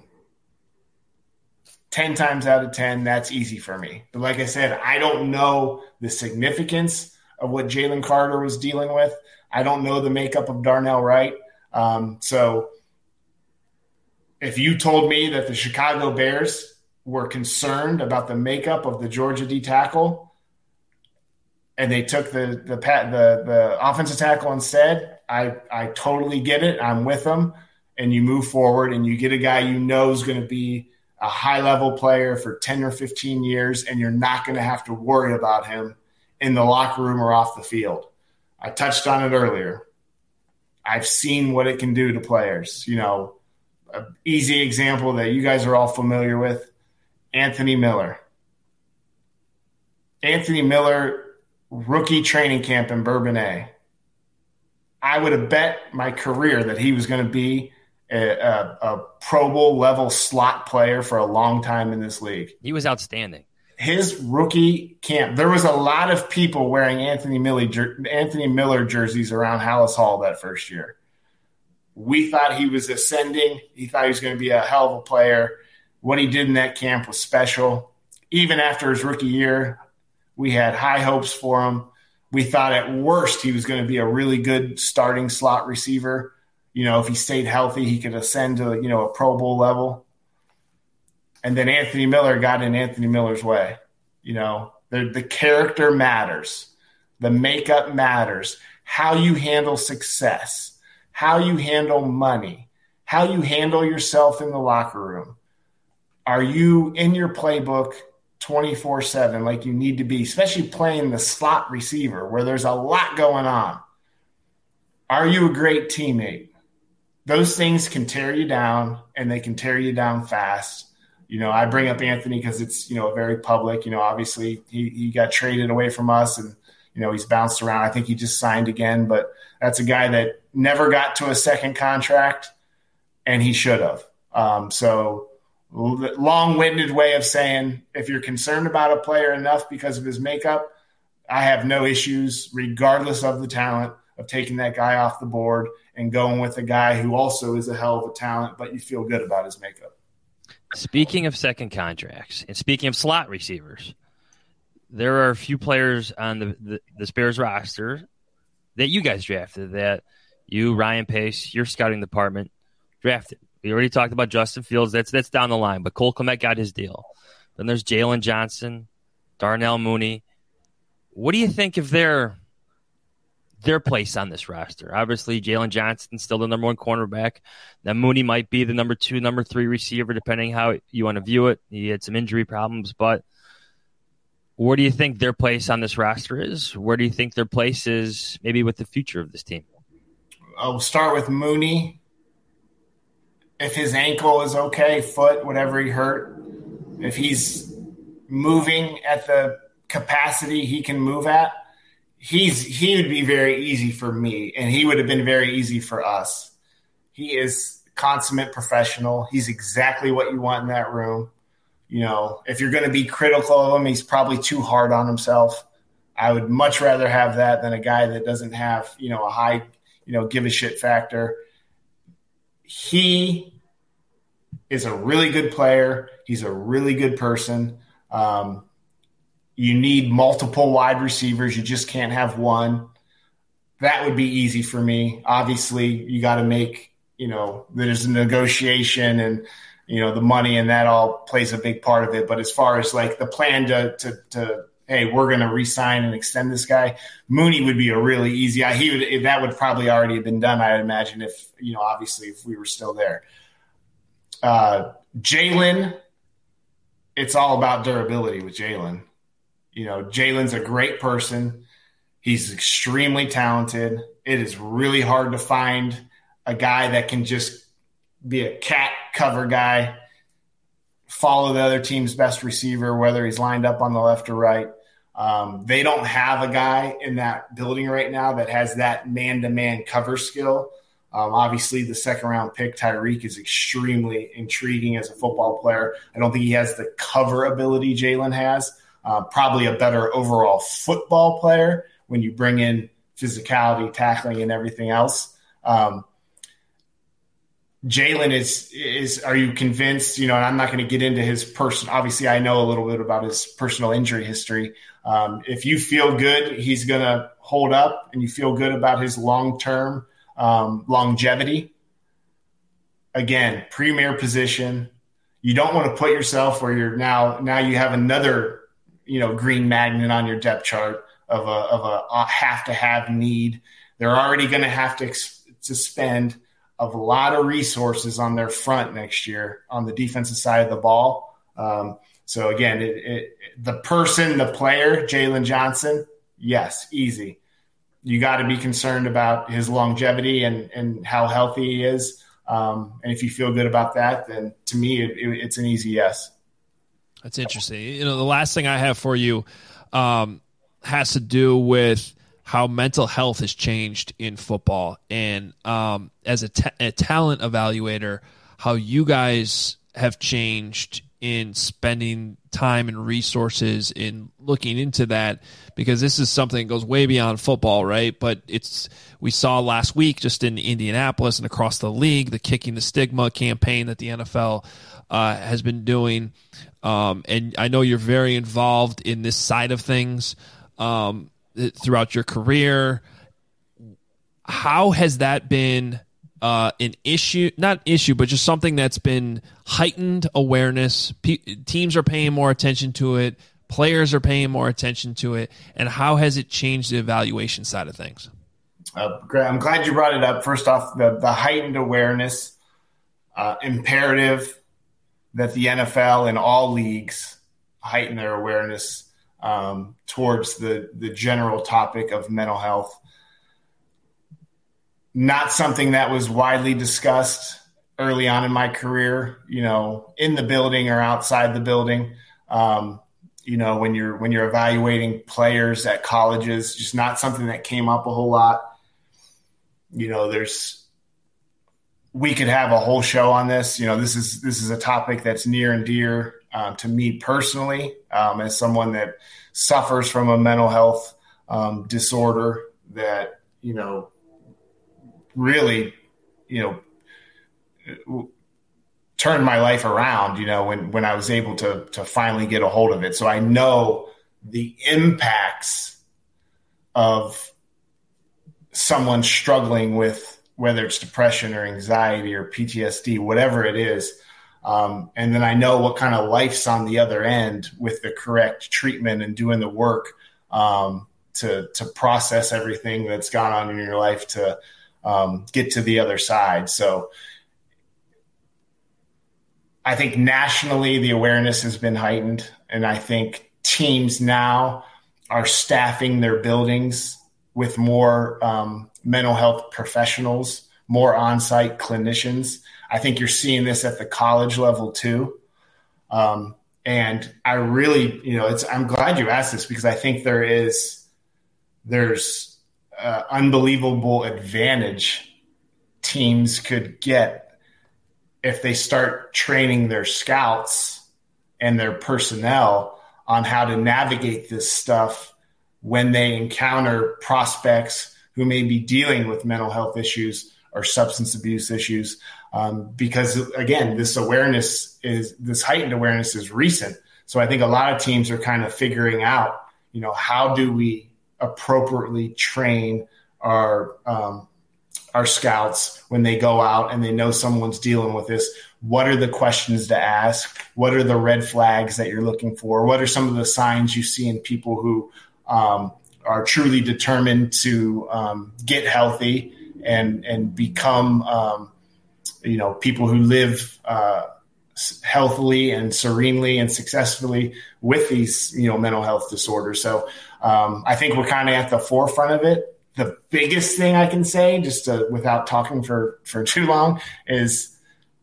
ten times out of ten, that's easy for me. But like I said, I don't know the significance of what Jalen Carter was dealing with. I don't know the makeup of Darnell Wright. Um, so if you told me that the Chicago Bears were concerned about the makeup of the Georgia D tackle, and they took the the the, the offensive tackle instead, I, I totally get it. I'm with them. And you move forward and you get a guy you know is going to be a high-level player for ten or fifteen years, and you're not going to have to worry about him in the locker room or off the field. I touched on it earlier. I've seen what it can do to players. You know, an easy example that you guys are all familiar with, Anthony Miller. Anthony Miller – rookie training camp in Bourbonnais. I would have bet my career that he was going to be a, a, a Pro Bowl level slot player for a long time in this league. He was outstanding. His rookie camp, there was a lot of people wearing Anthony Miller, Anthony Miller jerseys around Hallis Hall that first year. We thought he was ascending. He thought he was going to be a hell of a player. What he did in that camp was special. Even after his rookie year, we had high hopes for him. We thought at worst he was going to be a really good starting slot receiver. You know, if he stayed healthy, he could ascend to, you know, a Pro Bowl level. And then Anthony Miller got in Anthony Miller's way. You know, the, the character matters. The makeup matters. How you handle success, how you handle money, how you handle yourself in the locker room. Are you in your playbook twenty-four seven like you need to be, especially playing the slot receiver where there's a lot going on? Are you a great teammate? Those things can tear you down, and they can tear you down fast. You know, I bring up Anthony because it's, you know, very public. You know, obviously he, he got traded away from us, and, you know, he's bounced around. I think he just signed again, but that's a guy that never got to a second contract, and he should have. Um, so long-winded way of saying, if you're concerned about a player enough because of his makeup, I have no issues, regardless of the talent, of taking that guy off the board and going with a guy who also is a hell of a talent, but you feel good about his makeup. Speaking of second contracts and speaking of slot receivers, there are a few players on the, the, the Bears roster that you guys drafted, that you, Ryan Pace, your scouting department drafted. We already talked about Justin Fields. That's that's down the line, but Cole Kmet got his deal. Then there's Jalen Johnson, Darnell Mooney. What do you think of their their place on this roster? Obviously, Jalen Johnson's still the number one cornerback. Then Mooney might be the number two, number three receiver, depending how you want to view it. He had some injury problems, but where do you think their place on this roster is? Where do you think their place is maybe with the future of this team? I'll start with Mooney. If his ankle is okay, foot, whatever he hurt, if he's moving at the capacity he can move at, he's he would be very easy for me, and he would have been very easy for us. He is consummate professional. He's exactly what you want in that room. You know, if you're going to be critical of him, he's probably too hard on himself. I would much rather have that than a guy that doesn't have, you know, a high, you know, give a shit factor. He is a really good player. He's a really good person. Um, you need multiple wide receivers. You just can't have one. That would be easy for me. Obviously, you got to make, you know, there's a negotiation and, you know, the money and that all plays a big part of it. But as far as like the plan to, to, to hey, we're going to re-sign and extend this guy, Mooney would be a really easy. He would, that would probably already have been done, I would imagine, if, you know, obviously if we were still there. Uh, Jalen, it's all about durability with Jalen. You know, Jalen's a great person. He's extremely talented. It is really hard to find a guy that can just be a cat cover guy, follow the other team's best receiver, whether he's lined up on the left or right. Um, they don't have a guy in that building right now that has that man-to-man cover skill. Um, obviously, the second-round pick, Tyreek, is extremely intriguing as a football player. I don't think he has the cover ability Jalen has. Uh, probably a better overall football player when you bring in physicality, tackling, and everything else. Um, Jalen is, is, are you convinced, you know, and I'm not going to get into his person. Obviously, I know a little bit about his personal injury history. Um, if you feel good, he's going to hold up and you feel good about his long-term um, longevity. Again, premier position. You don't want to put yourself where you're now, now you have another, you know, green magnet on your depth chart of a, of a have to have need. They're already going to have to, to spend of a lot of resources on their front next year on the defensive side of the ball. Um, so again, it, it, the person, the player, Jalen Johnson, yes, easy. You got to be concerned about his longevity and, and how healthy he is. Um, and if you feel good about that, then to me, it, it, it's an easy yes. That's interesting. You know, the last thing I have for you um, has to do with how mental health has changed in football. And um, as a, ta- a talent evaluator, how you guys have changed in spending time and resources in looking into that, because this is something that goes way beyond football, right? But it's, we saw last week just in Indianapolis and across the league, the Kicking the Stigma campaign that the N F L uh, has been doing. Um, and I know you're very involved in this side of things. Um, throughout your career. How has that been uh, an issue, not issue, but just something that's been heightened awareness? Pe- teams are paying more attention to it. Players are paying more attention to it. And how has it changed the evaluation side of things? Uh, I'm glad you brought it up. First off, the, the heightened awareness, uh, imperative that the N F L and all leagues heighten their awareness Um, towards the, the general topic of mental health. Not something that was widely discussed early on in my career, you know, in the building or outside the building. Um, you know, when you're, when you're evaluating players at colleges, just not something that came up a whole lot. You know, there's, we could have a whole show on this. You know, this is, this is a topic that's near and dear Uh, to me personally, um, as someone that suffers from a mental health um, disorder that, you know, really, you know, turned my life around, you know, when, when I was able to, to finally get a hold of it. So I know the impacts of someone struggling with whether it's depression or anxiety or P T S D, whatever it is. Um, and then I know what kind of life's on the other end with the correct treatment and doing the work um, to to process everything that's gone on in your life to um, get to the other side. So I think nationally the awareness has been heightened, and I think teams now are staffing their buildings with more um, mental health professionals, more on-site clinicians. I think you're seeing this at the college level too. Um, and I really, you know, it's, I'm glad you asked this because I think there is, there's uh, unbelievable advantage teams could get if they start training their scouts and their personnel on how to navigate this stuff when they encounter prospects who may be dealing with mental health issues or substance abuse issues. Um, because again, this awareness is, this heightened awareness is recent. So I think a lot of teams are kind of figuring out, you know, how do we appropriately train our, um, our scouts when they go out and they know someone's dealing with this. What are the questions to ask? What are the red flags that you're looking for? What are some of the signs you see in people who um, are truly determined to um, get healthy and, and become, um, you know, people who live uh, healthily and serenely and successfully with these, you know, mental health disorders. So um, I think we're kind of at the forefront of it. The biggest thing I can say, just to, without talking for, for too long, is,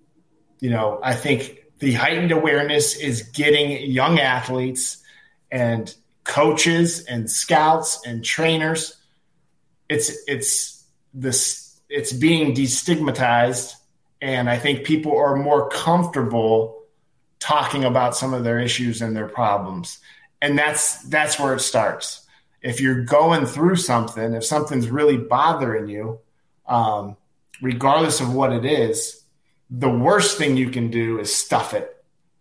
you know, I think the heightened awareness is getting young athletes and coaches and scouts and trainers. It's it's this it's being destigmatized, and I think people are more comfortable talking about some of their issues and their problems, and that's that's where it starts. If you're going through something, if something's really bothering you, um, regardless of what it is, the worst thing you can do is stuff it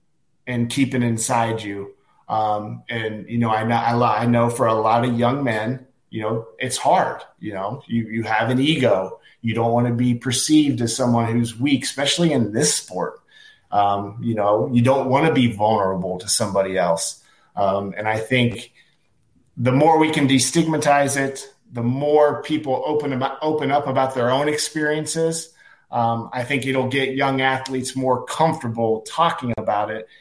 and keep it inside you. Um, and, you know, I know, I know for a lot of young men, you know, it's hard. You know, you, you have an ego. You don't want to be perceived as someone who's weak, especially in this sport. Um, you know, you don't want to be vulnerable to somebody else. Um, and I think the more we can destigmatize it, the more people open about, open up about their own experiences. Um, I think it'll get young athletes more comfortable talking about it,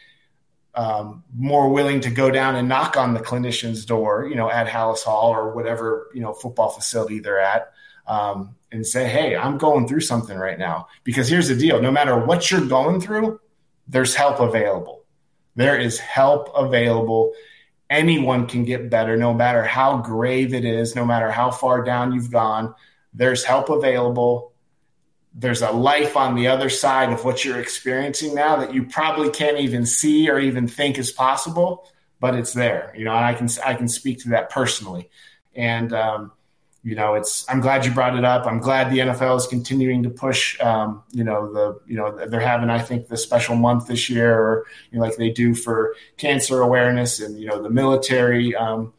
um, more willing to go down and knock on the clinician's door, you know, at Halas Hall or whatever, you know, football facility they're at, um, and say, hey, I'm going through something right now. Because here's the deal. No matter what you're going through, there's help available. There is help available. Anyone can get better, no matter how grave it is, no matter how far down you've gone. There's help available. There's a life on the other side of what you're experiencing now that you probably can't even see or even think is possible, but it's there. You know, and I can I can speak to that personally. And um, you know, it's I'm glad you brought it up. I'm glad the N F L is continuing to push. Um, you know, the you know they're having I think the special month this year, or you know, like they do for cancer awareness, and you know the military um,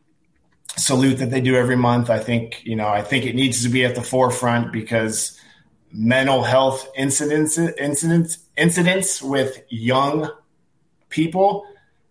salute that they do every month. I think you know I think it needs to be at the forefront because mental health incidents incidents incidents with young people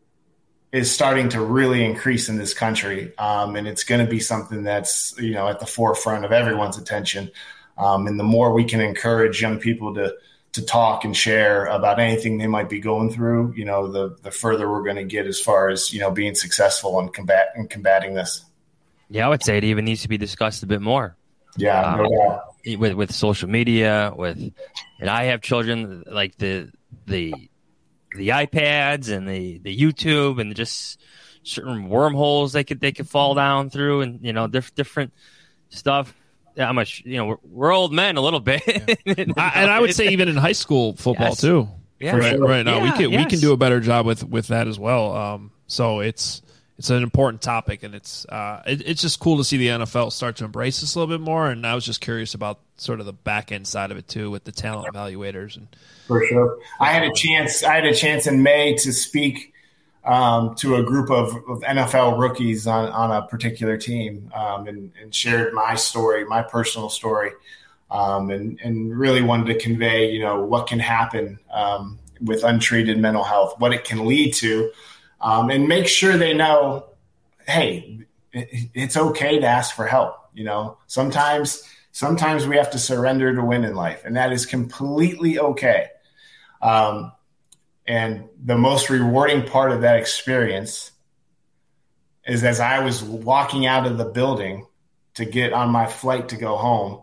is starting to really increase in this country. Um, and it's going to be something that's, you know, at the forefront of everyone's attention. Um, and the more we can encourage young people to, to talk and share about anything they might be going through, you know, the, the further we're going to get as far as, you know, being successful in combat in combating this. Yeah, I would say it even needs to be discussed a bit more. Yeah. Um, no doubt. with, with social media, with, and I have children, like the, the, the iPads and the, the YouTube and just certain wormholes they could they could fall down through, and you know diff, different stuff. Yeah, I'm a, you know we're, we're old men a little bit, yeah. I, and I would say even in high school football yes. too. Yeah, right, sure. right now yeah, we can yes. we can do a better job with, with that as well. Um, so it's it's an important topic, and it's uh, it, it's just cool to see the N F L start to embrace this a little bit more. And I was just curious about sort of the back end side of it too, with the talent evaluators and. For sure. I had a chance. I had a chance in May to speak um, to a group of, of N F L rookies on, on a particular team, um, and, and shared my story, my personal story, um, and, and really wanted to convey, you know, what can happen um, with untreated mental health, what it can lead to, um, and make sure they know, hey, it, it's okay to ask for help. You know, sometimes sometimes we have to surrender to win in life, and that is completely okay. Um, and the most rewarding part of that experience is as I was walking out of the building to get on my flight to go home,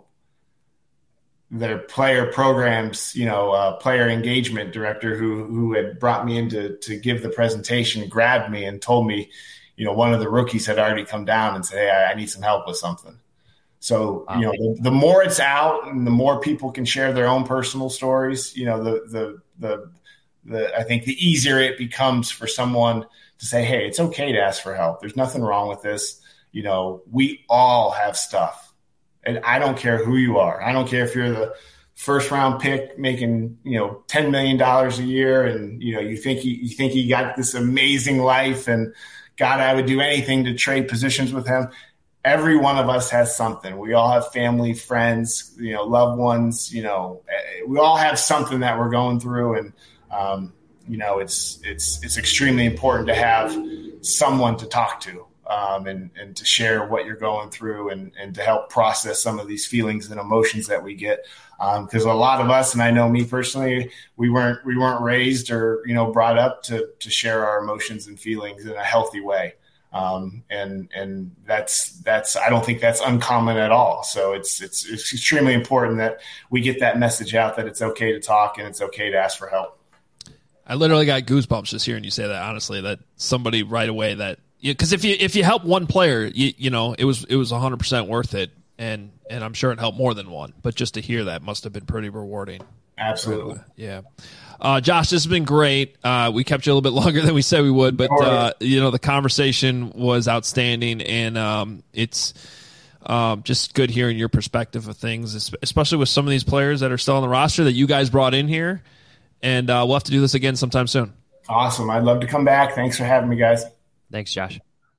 their player programs, you know, uh, player engagement director who who had brought me in to, to give the presentation grabbed me and told me, you know, one of the rookies had already come down and said, hey, I, I need some help with something. So, you know, the, the more it's out and the more people can share their own personal stories, you know, the, the, the, the, I think the easier it becomes for someone to say, hey, it's okay to ask for help. There's nothing wrong with this. You know, we all have stuff, and I don't care who you are. I don't care if you're the first round pick making, you know, ten million dollars a year. And, you know, you think you, you think you got this amazing life and God, I would do anything to trade positions with him. Every one of us has something. We all have family, friends, you know, loved ones, you know, we all have something that we're going through. And, um, you know, it's, it's, it's extremely important to have someone to talk to, um, and, and to share what you're going through and, and to help process some of these feelings and emotions that we get. Um, cause a lot of us, and I know me personally, we weren't, we weren't raised or, you know, brought up to, to share our emotions and feelings in a healthy way. Um, and, and that's, that's, I don't think that's uncommon at all. So it's, it's, it's extremely important that we get that message out that it's okay to talk and it's okay to ask for help. I literally got goosebumps just hearing you say that, honestly, that somebody right away that, because if you, if you help one player, you, you know, it was, it was a hundred percent worth it. And, and I'm sure it helped more than one, but just to hear that must have been pretty rewarding. Absolutely. Uh, yeah. Uh, Josh, this has been great. Uh, we kept you a little bit longer than we said we would, but, uh, you know, the conversation was outstanding, and um, it's um, just good hearing your perspective of things, especially with some of these players that are still on the roster that you guys brought in here. And uh, we'll have to do this again sometime soon. Awesome. I'd love to come back. Thanks for having me, guys. Thanks, Josh.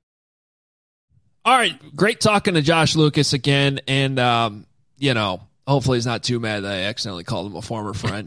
All right. Great talking to Josh Lucas again. And, um, you know, hopefully he's not too mad that I accidentally called him a former friend.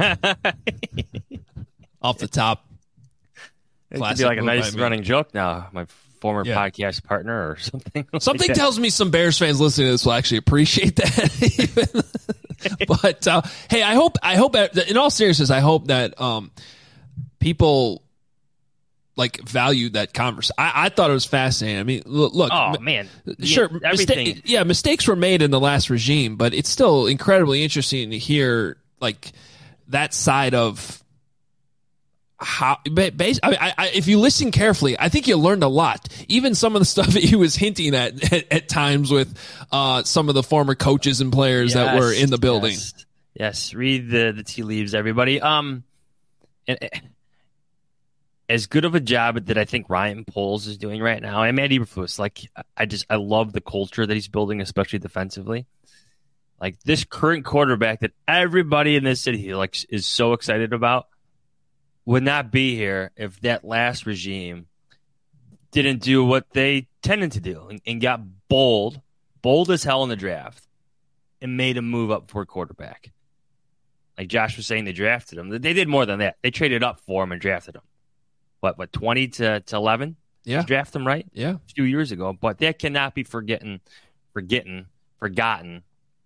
Off the top. It could be like a nice running joke now. My former yeah. podcast partner or something. Something like tells me some Bears fans listening to this will actually appreciate that. But uh, hey, I hope, I hope, in all seriousness, I hope that um, people like value that conversation. I, I thought it was fascinating. I mean, look, look oh man, sure, yeah, everything. Mista- yeah, mistakes were made in the last regime, but it's still incredibly interesting to hear like that side of how. Base, I mean, I, I, if you listen carefully, I think you learned a lot. Even some of the stuff that he was hinting at at, at times with uh, some of the former coaches and players yes, that were in the building. Yes, yes. Read the the tea leaves, everybody. Um, and. and as good of a job that I think Ryan Poles is doing right now, and Matt Eberflus, like I just I love the culture that he's building, especially defensively. Like this current quarterback that everybody in this city like is so excited about would not be here if that last regime didn't do what they tended to do and, and got bold, bold as hell in the draft, and made a move up for a quarterback. Like Josh was saying, they drafted him. They did more than that. They traded up for him and drafted him. What, what, twenty to eleven? Yeah. Draft them, right? Yeah. A few years ago. But that cannot be forgetting, forgetting, forgotten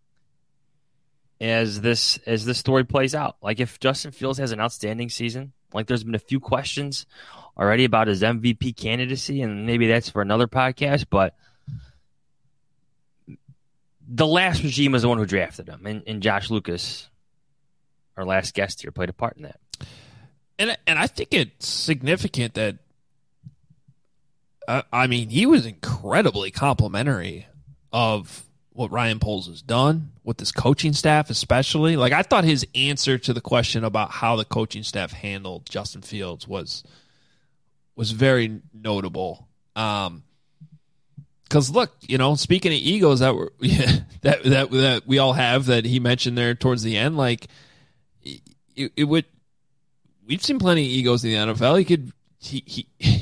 as this as this story plays out. Like if Justin Fields has an outstanding season, like there's been a few questions already about his M V P candidacy, and maybe that's for another podcast, but the last regime was the one who drafted him, and, and Josh Lucas, our last guest here, played a part in that. And and I think it's significant that, uh, I mean, he was incredibly complimentary of what Ryan Poles has done with this coaching staff, especially. Like, I thought his answer to the question about how the coaching staff handled Justin Fields was was very notable. Um, because look, you know, speaking of egos that were yeah, that that that we all have that he mentioned there towards the end, like it, it would. We've seen plenty of egos in the N F L. He could, he, he,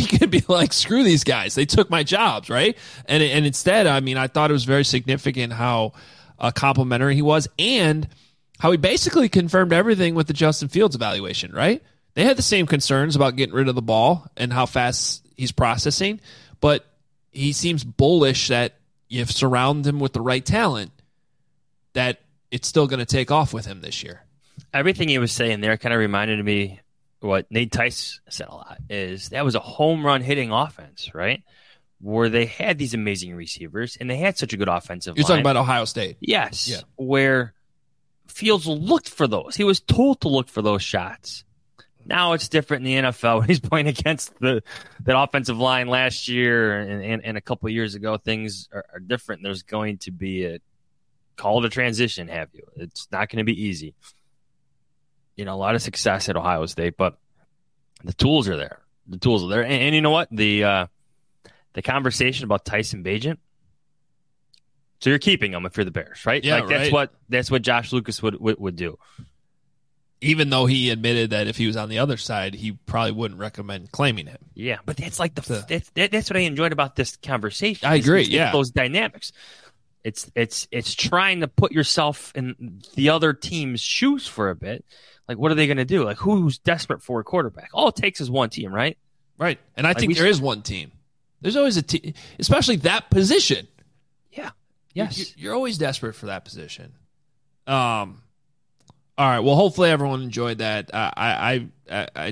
could be like, screw these guys. They took my jobs, right? And and instead, I mean, I thought it was very significant how uh, complimentary he was and how he basically confirmed everything with the Justin Fields evaluation, right? They had the same concerns about getting rid of the ball and how fast he's processing, but he seems bullish that if surround him with the right talent, that it's still going to take off with him this year. Everything he was saying there kind of reminded me what Nate Tice said a lot, is that was a home run hitting offense, right? Where they had these amazing receivers and they had such a good offensive You're line. talking about Ohio State. Yes. Yeah. Where Fields looked for those. He was told to look for those shots. Now it's different in the N F L when he's playing against the that offensive line last year and, and, and a couple of years ago. Things are, are different. There's going to be a call to transition, have you? It's not going to be easy. You know, a lot of success at Ohio State, but the tools are there. The tools are there. And, and you know what? The uh, the conversation about Tyson Bagent. So you're keeping him if you're the Bears, right? Yeah, like that's right. what that's what Josh Lucas would, would would do. Even though he admitted that if he was on the other side, he probably wouldn't recommend claiming him. Yeah, but that's like the, the that's, that, that's what I enjoyed about this conversation. I agree. It's, it's yeah, those dynamics. It's it's it's trying to put yourself in the other team's shoes for a bit. Like, what are they going to do? Like, who's desperate for a quarterback? All it takes is one team, right? Right. And I like think there is one team. There's always a team, especially that position. Yeah. Yes. You're always desperate for that position. Um. All right. Well, hopefully everyone enjoyed that. Uh, I, I, I,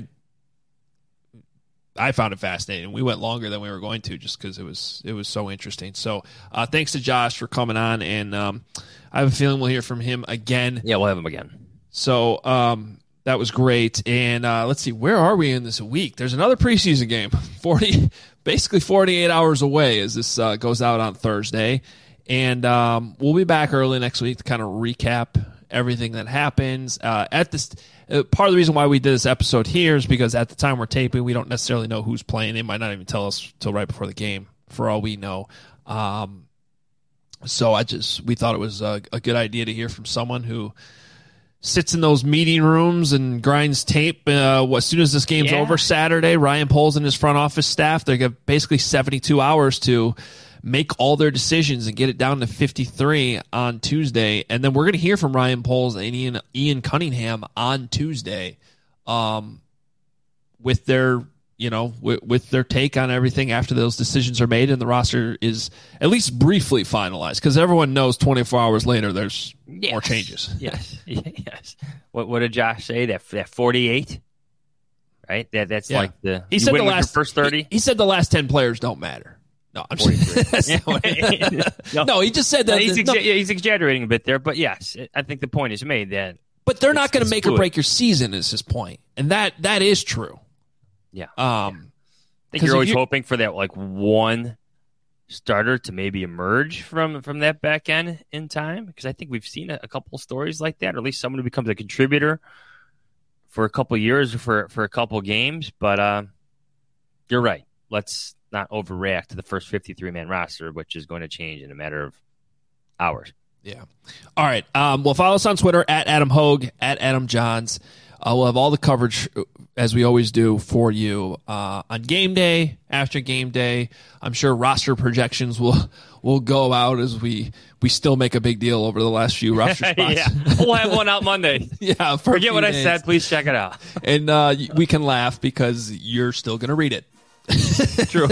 I found it fascinating. We went longer than we were going to just because it was it was so interesting. So, uh, thanks to Josh for coming on, and um, I have a feeling we'll hear from him again. Yeah, we'll have him again. So um, that was great. And uh, let's see, where are we in this week? There's another preseason game, forty, basically forty-eight hours away as this uh, goes out on Thursday. And um, we'll be back early next week to kind of recap everything that happens. Uh, at this, uh, part of the reason why we did this episode here is because at the time we're taping, we don't necessarily know who's playing. They might not even tell us till right before the game, for all we know. Um, so I just we thought it was a, a good idea to hear from someone who sits in those meeting rooms and grinds tape. Uh, as soon as this game's yeah. over Saturday, Ryan Poles and his front office staff, they have basically seventy-two hours to make all their decisions and get it down to fifty-three on Tuesday. And then we're going to hear from Ryan Poles and Ian, Ian Cunningham on Tuesday um, with their, you know, with, with their take on everything after those decisions are made and the roster is at least briefly finalized, because everyone knows twenty-four hours later there's yes. more changes. Yes. yes. What, what did Josh say? That that forty-eight? Right? That That's yeah. like the he said the last first thirty? He, he said the last ten players don't matter. No, I'm just, no. no, he just said that. No, he's, exa- no. yeah, he's exaggerating a bit there, but yes, I think the point is made that. But they're not going to make fluid. or break your season, is his point, and that that is true. Yeah, um, yeah. I think you're always you're, hoping for that like one starter to maybe emerge from from that back end in time, because I think we've seen a, a couple stories like that, or at least someone who becomes a contributor for a couple years or for for a couple games. But uh, you're right. Let's not overreact to the first fifty-three man roster, which is going to change in a matter of hours. Yeah. All right. Um, well, follow us on Twitter at Adam Hogue, at Adam Johns. Uh, we'll have all the coverage, as we always do, for you uh, on game day, after game day. I'm sure roster projections will will go out as we we still make a big deal over the last few roster spots. yeah, we'll have one out Monday. yeah. Forget what days. I said. Please check it out. And uh, we can laugh because you're still going to read it. True. True.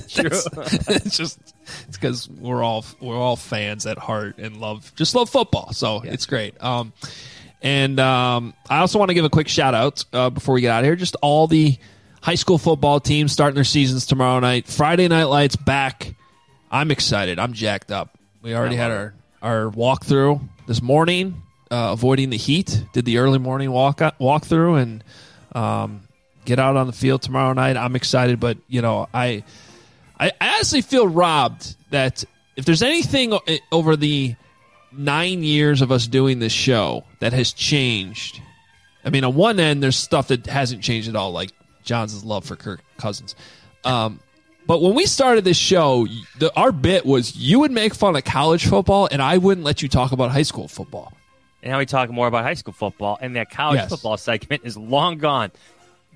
It's just it's because we're all we're all fans at heart and love just love football, so yeah. It's great. Um, and um, I also want to give a quick shout out uh, before we get out of here. Just all the high school football teams starting their seasons tomorrow night. Friday Night Lights back. I'm excited. I'm jacked up. We already had our our walkthrough this morning, uh, avoiding the heat. Did the early morning walk walkthrough and. Um, Get out on the field tomorrow night. I'm excited, but you know, I, I honestly feel robbed that if there's anything over the nine years of us doing this show that has changed. I mean, on one end, there's stuff that hasn't changed at all, like John's love for Kirk Cousins. Um, but when we started this show, the, our bit was you would make fun of college football, and I wouldn't let you talk about high school football. And now we talk more about high school football, and that college yes. football segment is long gone.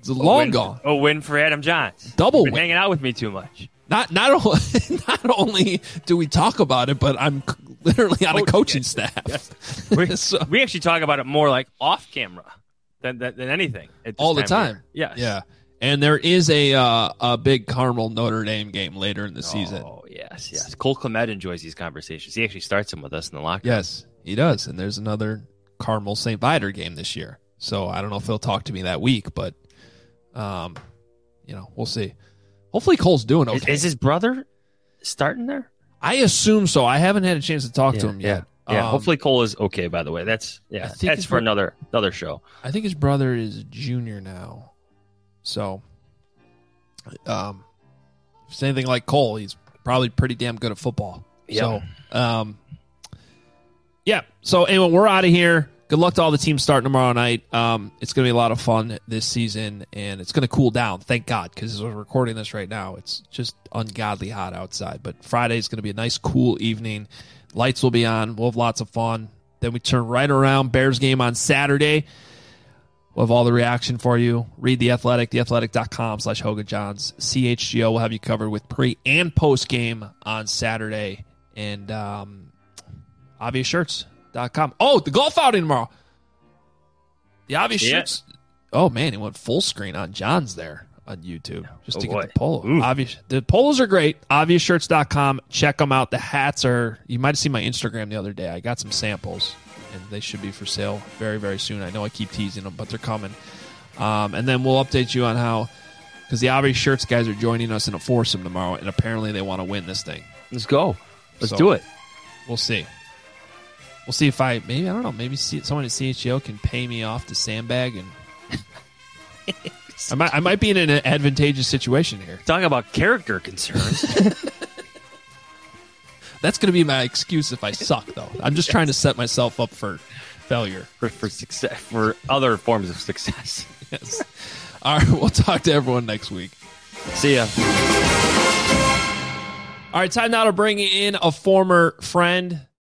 It's long win, gone. A win for Adam Johns. Double You've been win. hanging out with me too much. Not not only, not only do we talk about it, but I'm literally on a coaching staff. Yes. We, So- we actually talk about it more like off camera than than, than anything. at this all the time of time. year. Yes. Yeah. And there is a uh, a big Carmel Notre Dame game later in the season. Oh, yes, yes. Cole Clement enjoys these conversations. He actually starts them with us in the locker room. Yes, he does. And there's another Carmel Saint Viator game this year. So I don't know if he'll talk to me that week, but um, you know, we'll see. Hopefully Cole's doing okay. Is, is his brother starting there? I assume so. I haven't had a chance to talk to him yet. Yeah. yeah. Um, Hopefully Cole is okay, by the way. That's yeah. think That's his for bro- another another show. I think his brother is a junior now. So um if it's anything like Cole, he's probably pretty damn good at football. Yeah. So um yeah. So anyway, we're out of here. Good luck to all the teams starting tomorrow night. Um, it's going to be a lot of fun this season, and it's going to cool down, thank God, because as we're recording this right now, it's just ungodly hot outside. But Friday is going to be a nice, cool evening. Lights will be on. We'll have lots of fun. Then we turn right around. Bears game on Saturday. We'll have all the reaction for you. Read The Athletic, theathletic.com slash Hoga Johns. C H G O will have you covered with pre- and post-game on Saturday. And um, obvious shirts dot com. Oh, the golf outing tomorrow. The obvious Yeah. shirts. Oh, man, he went full screen on John's there on YouTube just Oh, to boy. get the polo. Ooh. Obvious, the polos are great. obvious shirts dot com. Check them out. The hats are, you might have seen my Instagram the other day. I got some samples, and they should be for sale very, very soon. I know I keep teasing them, but they're coming. Um, and then we'll update you on how, because the Obvious Shirts guys are joining us in a foursome tomorrow, and apparently they want to win this thing. Let's go. Let's So, do it. We'll see. We'll see if I maybe I don't know maybe see, someone at C H G O can pay me off to sandbag, and I might I might be in an advantageous situation here. Talking about character concerns. That's going to be my excuse if I suck, though. I'm just trying to set myself up for failure. for, for success, for other forms of success. Yes. All right, we'll talk to everyone next week. See ya. All right, time now to bring in a former friend.